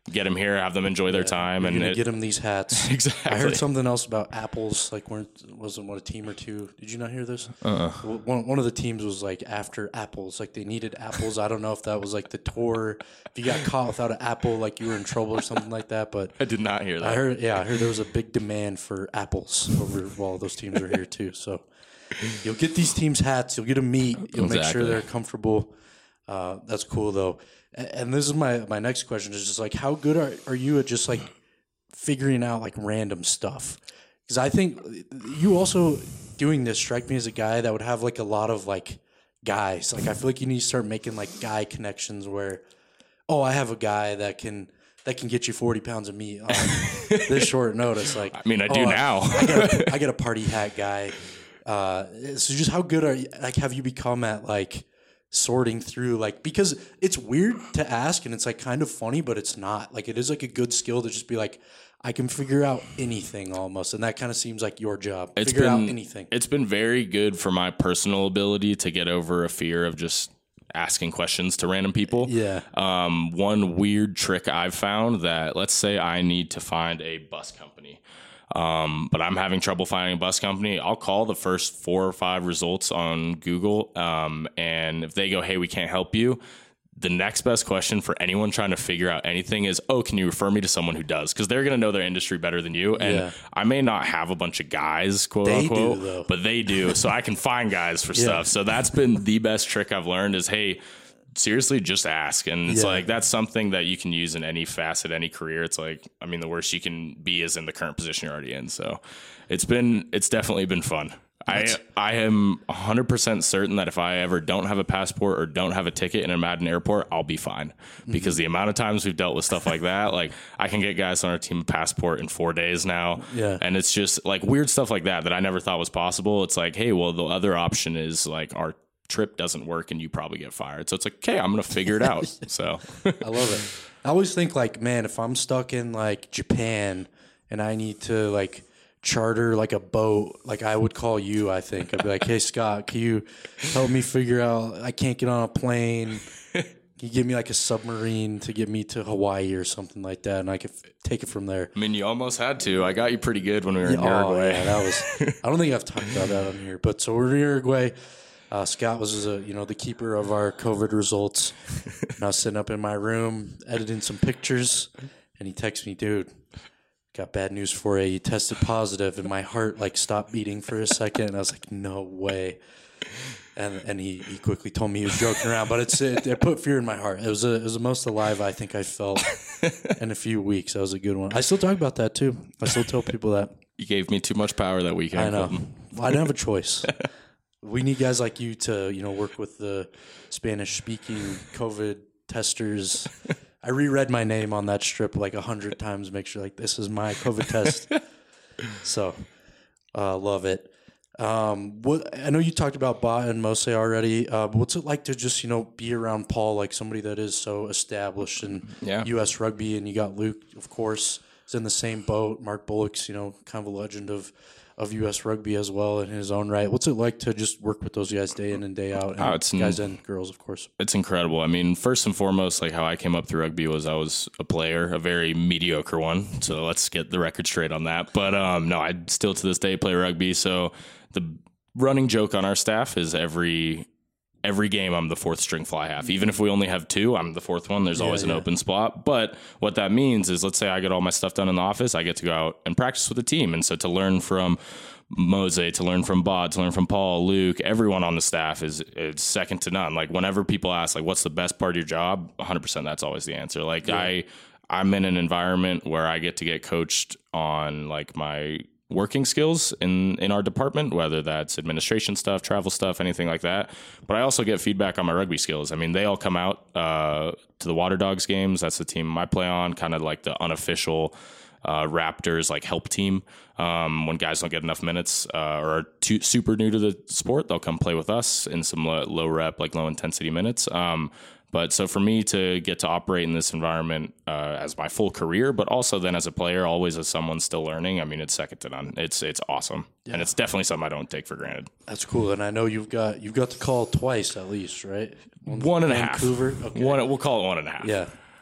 get them here, have them enjoy their Yeah, time, you're and gonna it, get them these hats. exactly. I heard something else about apples. Like, weren't wasn't what a team or two? Did you not hear this? Uh-uh. One one of the teams was like after apples. Like they needed apples. I don't know if that was like the tour. If you got caught without an apple, like you were in trouble or something like that. But I did not hear that. I heard, yeah, I heard there was a big demand for apples over while those teams are here too. So you'll get these teams hats. You'll get them meat. You'll make Exactly. sure they're comfortable. Uh, that's cool though. And, and this is my my next question is just like, how good are are you at just like figuring out like random stuff? Because I think you also doing this strike me as a guy that would have like a lot of like guys. Like I feel like you need to start making like guy connections where, oh, I have a guy that can that can get you forty pounds of meat on this short notice. Like I mean, I do oh, now. I, I, got a, I got a party hat guy. Uh, so just how good are you? Like, have you become at like sorting through like, because it's weird to ask and it's like kind of funny, but it's not. Like it is like a good skill to just be like, I can figure out anything almost, and that kind of seems like your job. It's figure been, out anything. It's been very good for my personal ability to get over a fear of just asking questions to random people. Yeah. Um, one weird trick I've found that, let's say I need to find a bus company, um, but I'm having trouble finding a bus company. I'll call the first four or five results on Google, um, and if they go, hey, we can't help you, the next best question for anyone trying to figure out anything is, oh, can you refer me to someone who does? Because they're going to know their industry better than you. And Yeah. I may not have a bunch of guys, quote They unquote, do, though. but they do. So I can find guys for Yeah. stuff. So that's been the best trick I've learned is, hey, seriously, just ask. And it's Yeah. like, that's something that you can use in any facet, any career. It's like, I mean, the worst you can be is in the current position you're already in. So it's been, it's definitely been fun. I I am one hundred percent certain that if I ever don't have a passport or don't have a ticket in a Madden airport, I'll be fine. Because the amount of times we've dealt with stuff like that, like I can get guys on our team a passport in four days now. Yeah. And it's just like weird stuff like that that I never thought was possible. It's like, hey, well, the other option is like our trip doesn't work and you probably get fired. So it's like, okay, I'm going to figure it out. So I love it. I always think like, man, if I'm stuck in like Japan and I need to like charter like a boat, like I would call you. I think I'd be like, hey Scott, can you help me figure out? I can't get on a plane. Can you give me like a submarine to get me to Hawaii or something like that, and I could f- take it from there. I mean, you almost had to. I got you pretty good when we were in Oh Uruguay. yeah, that was. I don't think I've talked about that on here, but so we're in Uruguay. Uh, Scott was, a, you know, the keeper of our COVID results. And I was sitting up in my room editing some pictures, and he texts me, dude, got bad news for you. You tested positive, and my heart like stopped beating for a second, and I was like, no way. And and he, he quickly told me he was joking around, but it's it, it put fear in my heart. It was a, it was the most alive I think I felt in a few weeks. That was a good one. I still talk about that too. I still tell people that. You gave me too much power that weekend. I know. Colton. Well, I didn't have a choice. We need guys like you to, you know, work with the Spanish-speaking COVID testers. I reread my name on that strip like a hundred times, make sure like this is my COVID test. So, uh, love it. Um, what I know you talked about Ba and Mose already. Uh, but what's it like to just, you know, be around Paul, like somebody that is so established in Yeah. U S rugby, and you got Luke, of course, is in the same boat. Mark Bullock's, you know, kind of a legend of. of U S rugby as well in his own right. What's it like to just work with those guys day in and day out? And Oh, it's guys n- and girls, of course. It's incredible. I mean, first and foremost, like how I came up through rugby was I was a player, a very mediocre one. So let's get the record straight on that. But um, no, I still to this day play rugby. So the running joke on our staff is every every game I'm the fourth string fly half. Even if we only have two, I'm the fourth one. There's Yeah, always an yeah. open spot. But what that means is, let's say I get all my stuff done in the office, I get to go out and practice with the team. And so to learn from Mose, to learn from Bod, to learn from Paul, Luke, everyone on the staff is is second to none. Like whenever people ask, like, what's the best part of your job? one hundred percent that's always the answer. Like Yeah. I, I'm in an environment where I get to get coached on like my working skills in, in our department, whether that's administration stuff, travel stuff, anything like that. But I also get feedback on my rugby skills. I mean, they all come out uh, to the Water Dogs games. That's the team I play on, kind of like the unofficial uh, Raptors like help team. Um, when guys don't get enough minutes uh, or are too, super new to the sport, they'll come play with us in some low, low rep, like low intensity minutes. Um, But so for me to get to operate in this environment uh, as my full career, but also then as a player, always as someone still learning, I mean, it's second to none. It's it's awesome, Yeah. and it's definitely something I don't take for granted. That's cool. And I know you've got you've got the call twice at least, right? One and a half. Vancouver. Okay. One, we'll call it one and a half. Yeah.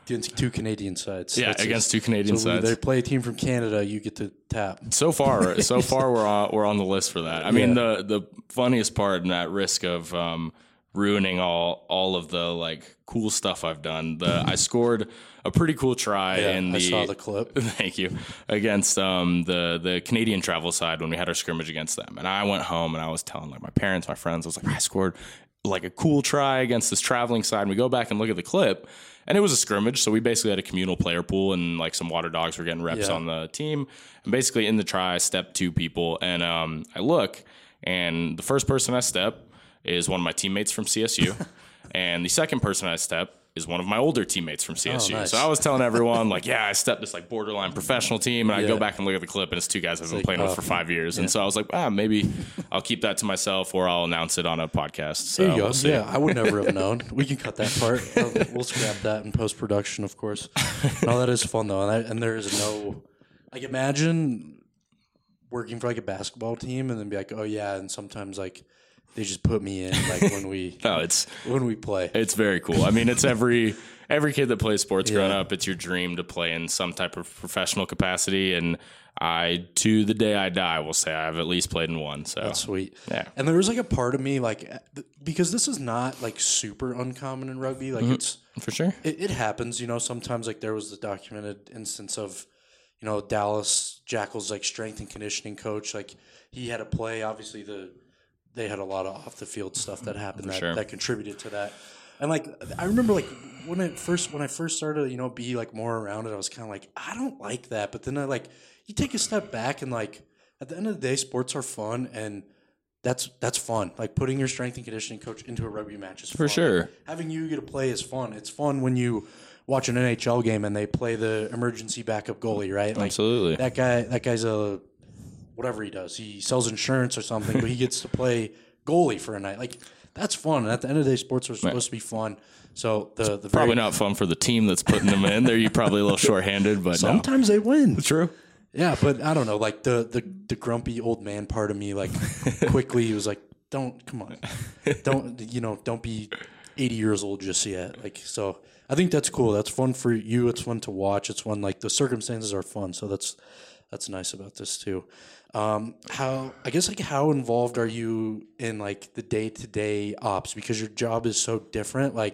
against two Canadian sides. Yeah, That's against it. two Canadian so sides. They play a team from Canada. You get to tap. So far, so far we're on, we're on the list for that. I mean, the the funniest part, and at risk of um, ruining all all of the like cool stuff I've done, the I scored a pretty cool try Yeah, in the. I saw the clip. Thank you. Against um, the the Canadian travel side when we had our scrimmage against them, and I went home and I was telling like my parents, my friends, I was like, I scored like a cool try against this traveling side. And we go back and look at the clip. And it was a scrimmage, so we basically had a communal player pool, and like some water dogs were getting reps Yeah. on the team. And basically in the try, I stepped two people, and um, I look, and the first person I step is one of my teammates from C S U, and the second person I step is one of my older teammates from C S U. Oh, nice. So I was telling everyone, like, yeah, I stepped this like borderline professional team, and I Yeah. go back and look at the clip, and it's two guys I've been like, playing oh, with for five years. And so I was like, ah, maybe I'll keep that to myself, or I'll announce it on a podcast. So There you go. we'll see. Yeah, I would never have known. We can cut that part. Uh, We'll scrap that in post production, of course. No, that is fun though, and, I, and there is no like imagine working for like a basketball team and then be like, oh yeah, and sometimes like they just put me in like when we No, it's when we play. It's very cool. I mean, it's every every kid that plays sports growing Yeah. up. It's your dream to play in some type of professional capacity, and I, to the day I die, will say I've at least played in one. So That's sweet. Yeah. And there was like a part of me like th- because this is not like super uncommon in rugby. Like it's for sure. it, it happens, you know, sometimes like there was the documented instance of, you know, Dallas Jackals like strength and conditioning coach. Like he had a play, obviously the they had a lot of off the field stuff that happened that, sure. that contributed to that. And like I remember like when I first when I first started, you know, be like more around it, I was kinda like, I don't like that. But then I like you take a step back and like at the end of the day, sports are fun and that's that's fun. Like putting your strength and conditioning coach into a rugby match is fun. For sure. Having you get to play is fun. It's fun when you watch an N H L game and they play the emergency backup goalie, right? Like Absolutely. that guy that guy's a whatever he does. He sells insurance or something, but he gets to play goalie for a night. Like that's fun. And at the end of the day, sports are supposed to be fun. So the the Probably very, not fun for the team that's putting them in. They're you probably a little shorthanded, but no. sometimes they win. True. Yeah, but I don't know. Like the the, the grumpy old man part of me, like quickly he was like, "Don't come on, don't you know? Don't be eighty years old just yet." Like so, I think that's cool. That's fun for you. It's fun to watch. It's fun. Like the circumstances are fun. So that's that's nice about this too. Um, how I guess like how involved are you in like the day to day ops because your job is so different? Like,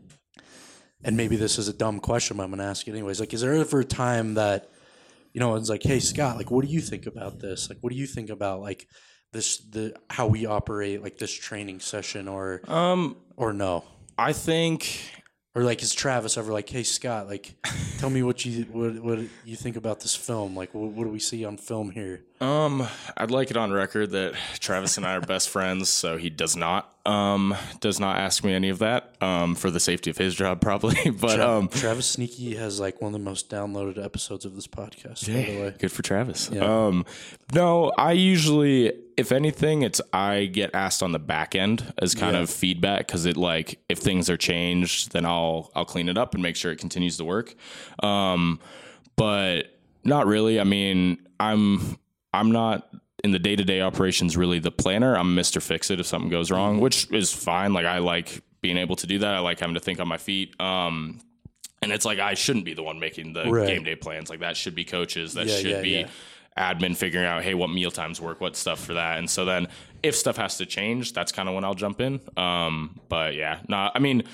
and maybe this is a dumb question, but I'm gonna ask it anyways. Like, is there ever a time that you know, it's like, hey, Scott, like, what do you think about this? Like, what do you think about like this, the how we operate, like this training session, or Um, or no, I think or like, is Travis ever like, hey, Scott, like, tell me what you what what you think about this film? Like, what, what do we see on film here? Um, I'd like it on record that Travis and I are best friends, so he does not um does not ask me any of that um for the safety of his job probably. But Tra- um, Travis Sneaky has like one of the most downloaded episodes of this podcast. By the way, good for Travis. Yeah. Um, no, I usually, if anything, it's I get asked on the back end as kind Yeah. of feedback because it like if things are changed, then I'll I'll clean it up and make sure it continues to work. Um, but not really. I mean, I'm I'm not in the day-to-day operations really the planner. I'm Mister Fix-It if something goes wrong, which is fine. Like I like being able to do that. I like having to think on my feet. Um, and it's like I shouldn't be the one making the Right. game day plans. Like that should be coaches. That Yeah, should yeah, be yeah. admin figuring out, hey, what meal times work, what stuff for that. And so then if stuff has to change, that's kind of when I'll jump in. Um, but yeah, no, I mean,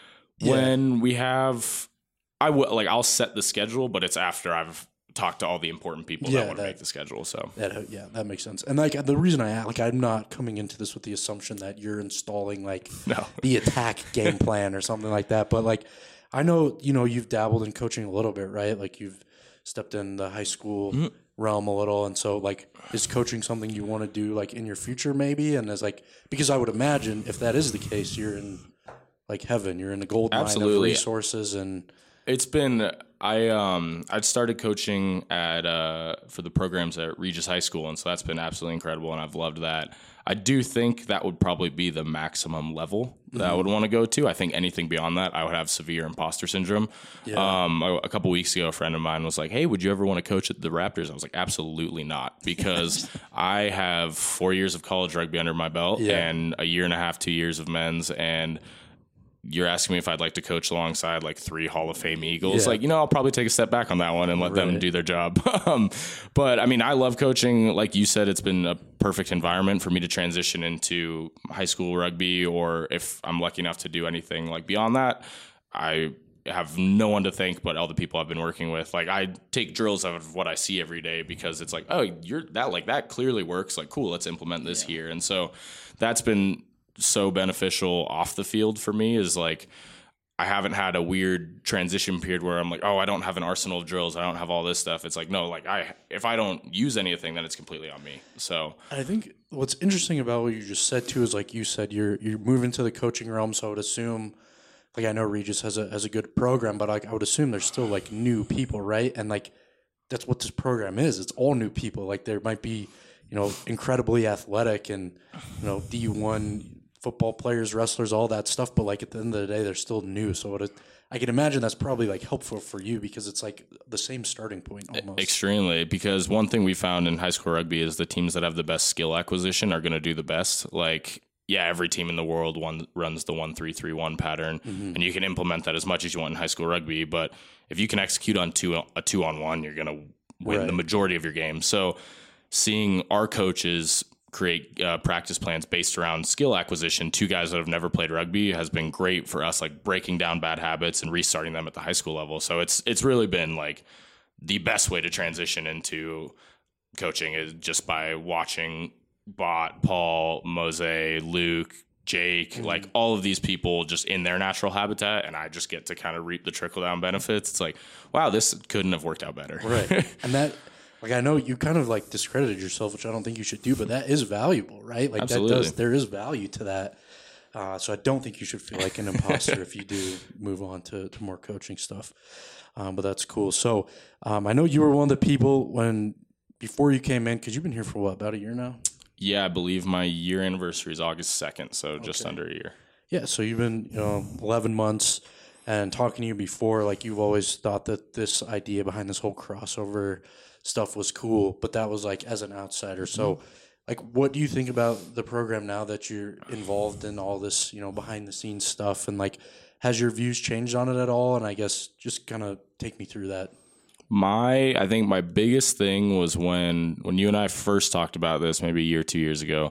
when we have, I will like I'll set the schedule, but it's after I've talked to all the important people Yeah, that want to that- make the schedule. So That yeah, that makes sense. And like the reason I like I'm not coming into this with the assumption that you're installing like No. the attack game plan or something like that. But like I know you know you've dabbled in coaching a little bit, right? Like you've stepped in the high school Mm-hmm. realm a little, and so like is coaching something you want to do like in your future maybe? And as like because I would imagine if that is the case, you're in like heaven. You're in the gold mine of Absolutely. resources and it's been I um I'd started coaching at uh for the programs at Regis High School, and so that's been absolutely incredible, and I've loved that. I do think that would probably be the maximum level that I would want to go to. I think anything beyond that, I would have severe imposter syndrome. Um, a, a couple weeks ago, a friend of mine was like, "Hey, would you ever want to coach at the Raptors?" I was like, "Absolutely not," because I have four years of college rugby under my belt Yeah. and a year and a half, two years of men's, and you're asking me if I'd like to coach alongside like three Hall of Fame Eagles. Yeah. Like, you know, I'll probably take a step back on that one and let them Right. do their job. um, but I mean, I love coaching. Like you said, it's been a perfect environment for me to transition into high school rugby, or if I'm lucky enough to do anything like beyond that, I have no one to thank but all the people I've been working with. Like, I take drills out of what I see every day because it's like, oh, you're that, like that clearly works. Like, cool, let's implement this yeah. here. And so that's been so beneficial off the field for me, is like, I haven't had a weird transition period where I'm like, oh, I don't have an arsenal of drills, I don't have all this stuff. It's like, no, like I, if I don't use anything, then it's completely on me. So I think what's interesting about what you just said too is, like you said, you're you're moving to the coaching realm. So I would assume, like, I know Regis has a has a good program, but like I would assume there's still like new people, right? And like that's what this program is. It's all new people. Like, there might be, you know, incredibly athletic and, you know, D one football players, wrestlers, all that stuff, but like at the end of the day, they're still new. So what it, I can imagine that's probably like helpful for you because it's like the same starting point almost. Extremely, because one thing we found in high school rugby is the teams that have the best skill acquisition are going to do the best. Like, yeah, every team in the world one runs the one three three one pattern, mm-hmm. and you can implement that as much as you want in high school rugby. But if you can execute on two a two on one, you're going to win right. the majority of your games. So seeing our coaches create uh, practice plans based around skill acquisition, two guys that have never played rugby, has been great for us, like breaking down bad habits and restarting them at the high school level. So it's it's really been like the best way to transition into coaching, is just by watching Bot, Paul, Mose, Luke, Jake, mm-hmm. like all of these people just in their natural habitat, and I just get to kind of reap the trickle down benefits. It's like, wow, this couldn't have worked out better. Right. And that, like, I know you kind of like discredited yourself, which I don't think you should do, but that is valuable, right? Like, Absolutely. that does, there is value to that. Uh, so I don't think you should feel like an imposter if you do move on to, to more coaching stuff. Um, but that's cool. So um, I know you were one of the people when, before you came in, because you've been here for what, about a year now? Yeah, I believe my year anniversary is August second, so okay. just under a year. Yeah, so you've been, you know, eleven months, and talking to you before, like, you've always thought that this idea behind this whole crossover stuff was cool, but that was like as an outsider. So like, what do you think about the program now that you're involved in all this, you know, behind the scenes stuff, and like, has your views changed on it at all? And I guess just kind of take me through that. My, I think my biggest thing was when, when you and I first talked about this, maybe a year, two years ago,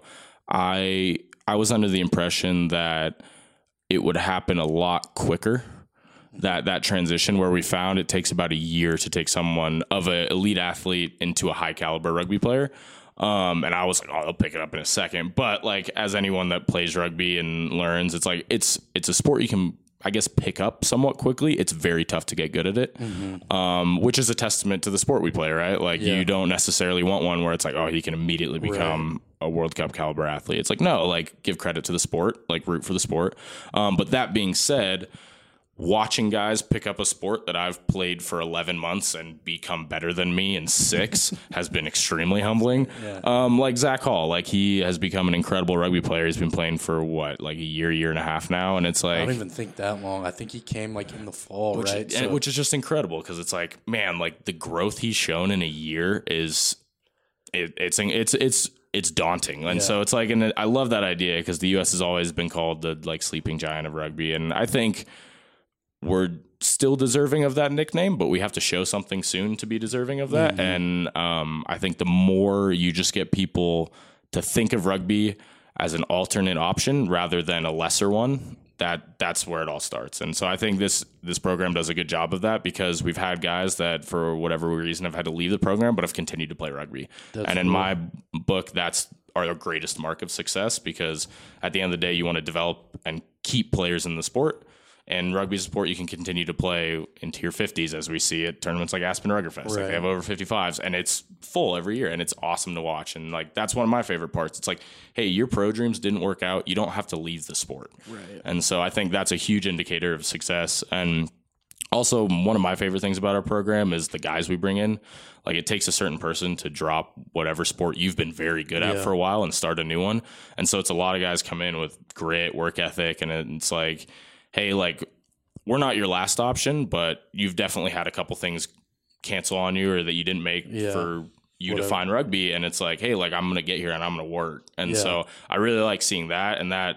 I, I was under the impression that it would happen a lot quicker. That that transition, where we found it takes about a year to take someone of an elite athlete into a high caliber rugby player. Um, and I was like, oh, they'll pick it up in a second. But like, as anyone that plays rugby and learns, it's like, it's, it's a sport you can, I guess, pick up somewhat quickly. It's very tough to get good at it, mm-hmm. um, which is a testament to the sport we play, right? Like, yeah. you don't necessarily want one where it's like, oh, he can immediately become right. a World Cup caliber athlete. It's like, no, like, give credit to the sport, like root for the sport. Um, but that being said, watching guys pick up a sport that I've played for eleven months and become better than me in six has been extremely humbling. Yeah. Um, like Zach Hall, like, he has become an incredible rugby player. He's been playing for what, like a year, year and a half now. And it's like, I don't even think that long. I think he came like in the fall, which, right? So. Which is just incredible, because it's like, man, like the growth he's shown in a year is it, it's, it's, it's, it's daunting. And yeah. so it's like, and I love that idea, because the U S has always been called the like sleeping giant of rugby. And I think we're still deserving of that nickname, but we have to show something soon to be deserving of that. Mm-hmm. And um, I think the more you just get people to think of rugby as an alternate option rather than a lesser one, that that's where it all starts. And so I think this this program does a good job of that, because we've had guys that for whatever reason have had to leave the program but have continued to play rugby. That's and in cool. my book, that's our greatest mark of success, because at the end of the day, you want to develop and keep players in the sport. And rugby is a sport you can continue to play into your fifties, as we see at tournaments like Aspen Ruggerfest. Right. Like, they have over fifty-fives, and it's full every year, and it's awesome to watch. And like, that's one of my favorite parts. It's like, hey, your pro dreams didn't work out. You don't have to leave the sport. Right. And so I think that's a huge indicator of success. And also, one of my favorite things about our program is the guys we bring in. Like, it takes a certain person to drop whatever sport you've been very good at yeah. for a while and start a new one. And so it's a lot of guys come in with grit, work ethic, and it's like, hey, like, we're not your last option, but you've definitely had a couple things cancel on you, or that you didn't make yeah. for you Whatever. to find rugby. And it's like, hey, like, I'm going to get here and I'm going to work. And yeah. so I really like seeing that. And that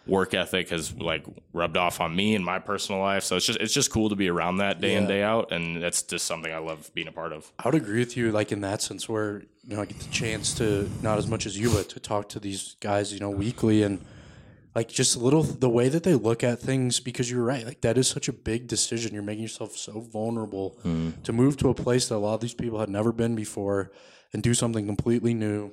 work ethic has like rubbed off on me in my personal life. So it's just it's just cool to be around that day yeah. in, day out, and that's just something I love being a part of. I would agree with you, like in that sense, where you know I get the chance to, not as much as you, but to talk to these guys, you know, weekly, and like just a little the way that they look at things, because you're right, like that is such a big decision. You're making yourself so vulnerable mm. to move to a place that a lot of these people had never been before and do something completely new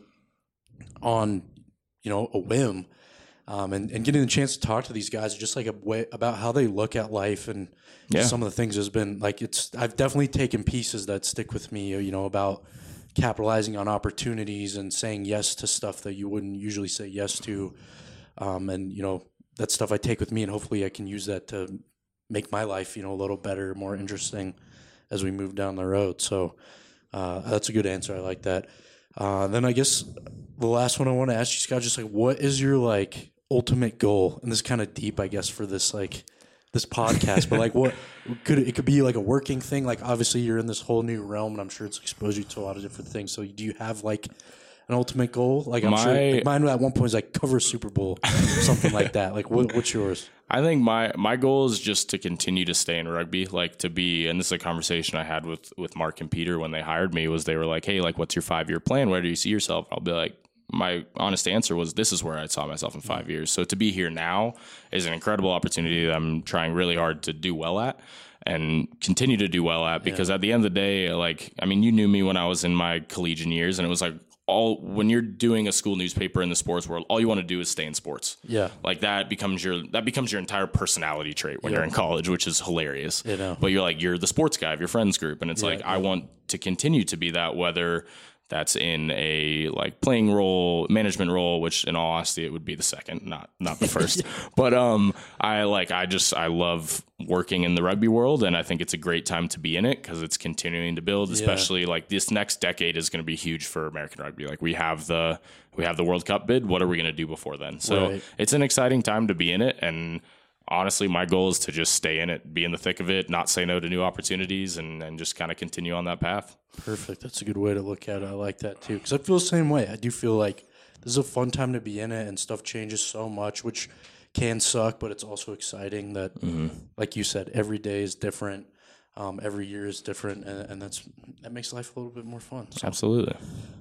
on, you know, a whim. Um, and, and getting the chance to talk to these guys just like a way about how they look at life and yeah. some of the things has been like, it's, I've definitely taken pieces that stick with me, you know, about capitalizing on opportunities and saying yes to stuff that you wouldn't usually say yes to. Um, and, you know, that's stuff I take with me, and hopefully I can use that to make my life, you know, a little better, more interesting as we move down the road. So uh, that's a good answer. I like that. Uh, then I guess the last one I want to ask you, Scott, just like, what is your like ultimate goal? And this is kind of deep, I guess, for this like this podcast, but like, what could it, it could be like a working thing? Like, obviously, you're in this whole new realm, and I'm sure it's exposed you to a lot of different things. So, do you have like an ultimate goal? Like, I'm my, sure like mine at one point is like cover a Super Bowl, something like that. Like, what, what's yours? I think my my goal is just to continue to stay in rugby, like to be, and this is a conversation I had with, with Mark and Peter when they hired me, was they were like, hey, like, what's your five-year plan? Where do you see yourself? I'll be like, my honest answer was, this is where I saw myself in five years. So to be here now is an incredible opportunity that I'm trying really hard to do well at and continue to do well at, because yeah. at the end of the day, like, I mean, you knew me when I was in my collegiate years, and it was like, all when you're doing a school newspaper in the sports world, all you want to do is stay in sports. Yeah. Like that becomes your that becomes your entire personality trait when yeah. you're in college, which is hilarious. You know. But you're like, you're the sports guy of your friends group. And it's yeah, like, yeah. I want to continue to be that, whether that's in a like playing role, management role, which in all honesty, it would be the second, not not the first. yeah. But um, I like I just I love working in the rugby world, and I think it's a great time to be in it because it's continuing to build. Especially yeah. like this next decade is going to be huge for American rugby. Like we have the we have the World Cup bid. What are we going to do before then? So right. it's an exciting time to be in it, and honestly, my goal is to just stay in it, be in the thick of it, not say no to new opportunities, and, and just kind of continue on that path. Perfect. That's a good way to look at it. I like that too, because I feel the same way. I do feel like this is a fun time to be in it, and stuff changes so much, which can suck, but it's also exciting that, mm-hmm. like you said, every day is different. Um, every year is different, and, and that's that makes life a little bit more fun. So. Absolutely.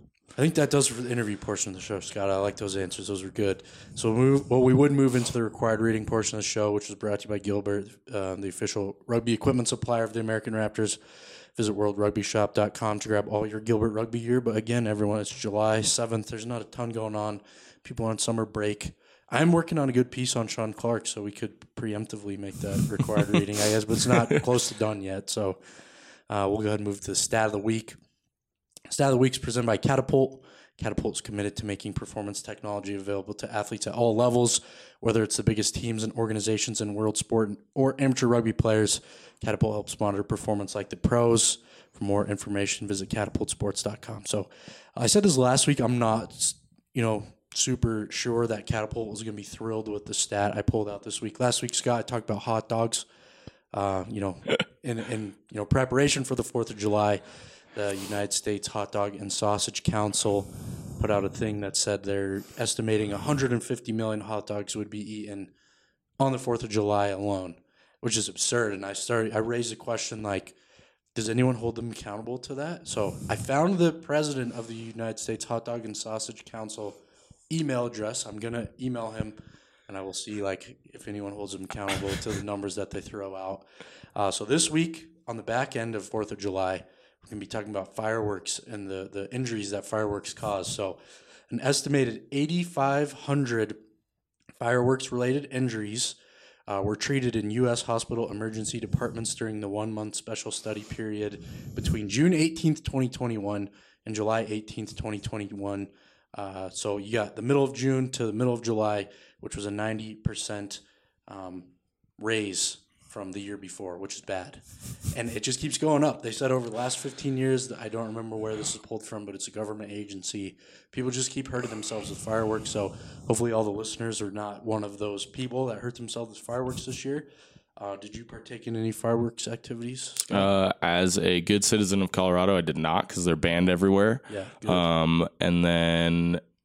I think that does for the interview portion of the show, Scott. I like those answers. Those were good. So we'll, move, well, we would move into the required reading portion of the show, which was brought to you by Gilbert, uh, the official rugby equipment supplier of the American Raptors. Visit world rugby shop dot com to grab all your Gilbert rugby gear. But again, everyone, it's July seventh. There's not a ton going on. People are on summer break. I'm working on a good piece on Sean Clark, so we could preemptively make that required reading, I guess, but it's not close to done yet. So uh, we'll go ahead and move to the stat of the week. Stat of the week is presented by Catapult. Catapult is committed to making performance technology available to athletes at all levels, whether it's the biggest teams and organizations in world sport or amateur rugby players. Catapult helps monitor performance like the pros. For more information, visit catapult sports dot com. So I said this last week. I'm not, you know, super sure that Catapult was going to be thrilled with the stat I pulled out this week. Last week, Scott, I talked about hot dogs. Uh, you know, in in you know preparation for the Fourth of July. The United States Hot Dog and Sausage Council put out a thing that said they're estimating one hundred fifty million hot dogs would be eaten on the Fourth of July alone, which is absurd. And I started, I raised a question like, does anyone hold them accountable to that? So I found the president of the United States Hot Dog and Sausage Council email address. I'm going to email him, and I will see like if anyone holds them accountable to the numbers that they throw out. Uh, so this week, on the back end of Fourth of July, we're going to be talking about fireworks and the, the injuries that fireworks cause. So an estimated eighty-five hundred fireworks-related injuries uh, were treated in U S hospital emergency departments during the one-month special study period between June eighteenth, twenty twenty-one and July eighteenth, twenty twenty-one. Uh, so you got the middle of June to the middle of July, which was a ninety percent um, raise from the year before, which is bad. And it just keeps going up. They said over the last fifteen years, I don't remember where this is pulled from, but it's a government agency. People just keep hurting themselves with fireworks. So hopefully all the listeners are not one of those people that hurt themselves with fireworks this year. Uh, did you partake in any fireworks activities, Scott? Uh, as a good citizen of Colorado, I did not because they're banned everywhere. Yeah. Good. Um, and then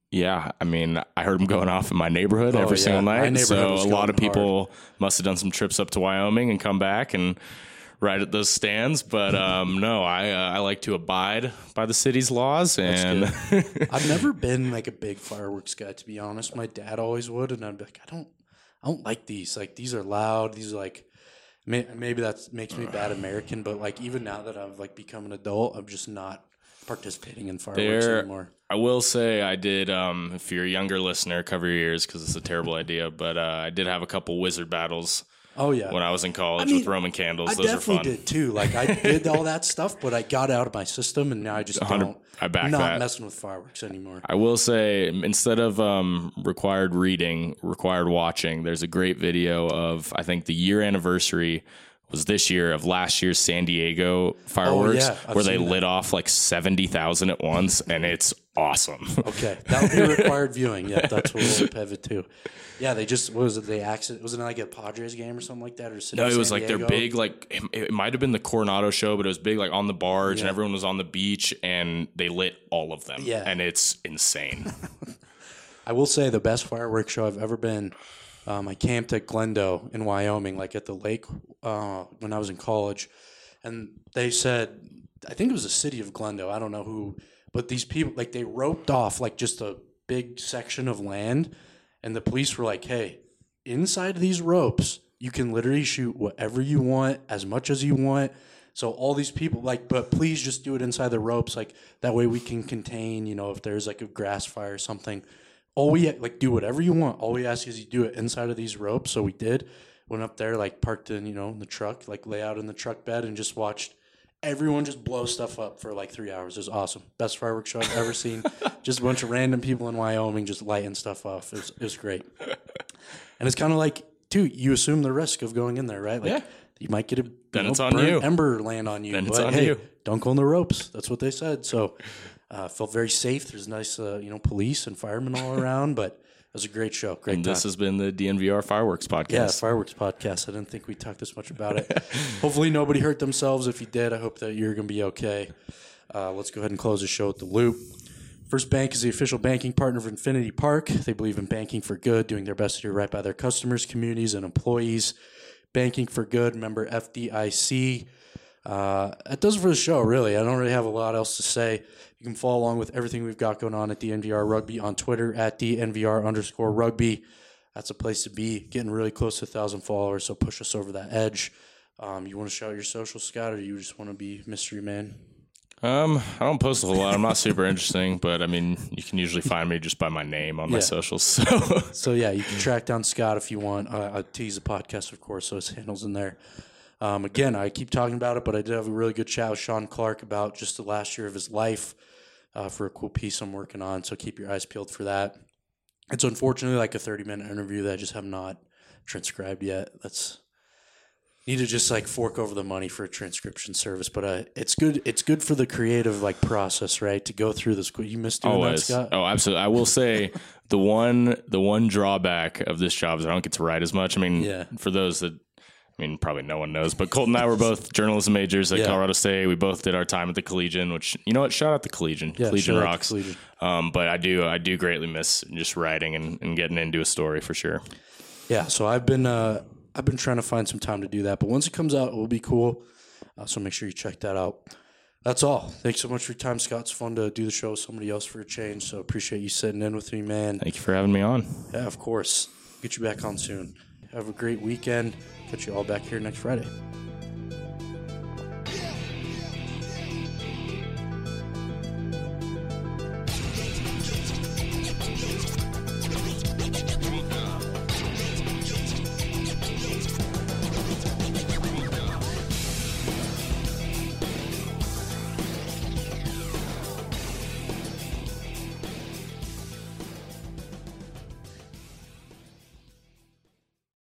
Yeah, I mean, I heard them going off in my neighborhood Oh, every yeah. single My night. neighborhood So was a lot of going people must have done some trips up to Wyoming and come back and ride at those stands. But um, no, I uh, I like to abide by the city's laws. And I've never been like a big fireworks guy, to be honest. My dad always would, and I'd be like, I don't, I don't like these. Like these are loud. These are like, may, maybe that makes me bad American, but like even now that I've like become an adult, I'm just not participating in fireworks They're- anymore. I will say I did, um, if you're a younger listener, cover your ears because it's a terrible idea. But uh, I did have a couple wizard battles Oh yeah, when I was in college I mean, with Roman candles. I Those are definitely fun. did too. Like I did all that stuff, but I got out of my system, and now I just one hundred don't. I back not that. messing with fireworks anymore. I will say, instead of um, required reading, required watching, there's a great video of, I think the year anniversary was this year of last year's San Diego fireworks, Oh, yeah, I've where they seen that. lit off like seventy thousand at once, and it's awesome. Okay, that would be required viewing. Yeah, that's what we'll pivot to. Yeah, they just what was it? They accident was it like a Padres game or something like that, or City No, of it was San like Diego? their big, like it, it might have been the Coronado show, but it was big, like on the barge, and Yeah. everyone was on the beach, and they lit all of them. Yeah. And it's insane. I will say the best fireworks show I've ever been. Um, I camped at Glendo in Wyoming, like at the lake, uh, when I was in college, and they said, I think it was the city of Glendo. I don't know who, but these people, like, they roped off like just a big section of land, and the police were like, "Hey, inside these ropes, you can literally shoot whatever you want, as much as you want." So all these people, like, but please just do it inside the ropes, like that way we can contain, you know, if there's like a grass fire or something. All we like do whatever you want. All we ask is you do it inside of these ropes. So we did. Went up there, like parked in, you know, in the truck, like lay out in the truck bed and just watched everyone just blow stuff up for like three hours. It was awesome. Best fireworks show I've ever seen. Just a bunch of random people in Wyoming just lighting stuff off. It was, it was great. And it's kind of like, too, you assume the risk of going in there, right? Like Yeah. you might get a Then you know, it's on burnt you. ember land on you. Then but it's on hey, you. don't go on the ropes. That's what they said. So uh, felt very safe. There's nice, uh, you know, police and firemen all around, but it was a great show. Great And time. this has been the D N V R Fireworks Podcast. Yeah, fireworks podcast. I didn't think we talked this much about it. Hopefully nobody hurt themselves. If you did, I hope that you're going to be okay. Uh, let's go ahead and close the show with the loop. First Bank is the official banking partner of Infinity Park. They believe in banking for good, doing their best to do right by their customers, communities, and employees. Banking for good, member F D I C. Uh, that does it for the show, really. I don't really have a lot else to say. You can follow along with everything we've got going on at D N V R Rugby on Twitter at D N V R underscore rugby. That's a place to be. Getting really close to one thousand followers, so push us over that edge. Um, you want to shout your social, Scott, or you just want to be mystery man? Um, I don't post a whole lot. I'm not super interesting, but I mean, you can usually find me just by my name on my Yeah. socials. So So, yeah, you can track down Scott if you want. Uh, I tease the podcast, of course, so his handle's in there. Um, again, I keep talking about it, but I did have a really good chat with Sean Clark about just the last year of his life uh, for a cool piece I'm working on, so keep your eyes peeled for that. It's unfortunately like a thirty-minute interview that I just have not transcribed yet. That's need to just like fork over the money for a transcription service, but uh, it's good. It's good for the creative like process, right? To go through this. You missed doing always, that, Scott? oh, absolutely. I will say the one the one drawback of this job is I don't get to write as much. I mean, Yeah. for those that. I mean, probably no one knows, but Colton and I were both journalism majors at Yeah. Colorado State. We both did our time at the Collegian, which, you know what, shout out the Collegian. Yeah, Collegian shout out to rocks. Collegian. Um, but I do I do greatly miss just writing and, and getting into a story for sure. Yeah, so I've been uh, I've been trying to find some time to do that, but once it comes out, it will be cool. Uh, so make sure you check that out. That's all. Thanks so much for your time, Scott. It's fun to do the show with somebody else for a change. So appreciate you sitting in with me, man. Thank you for having me on. Yeah, of course. Get you back on soon. Have a great weekend. Catch you all back here next Friday.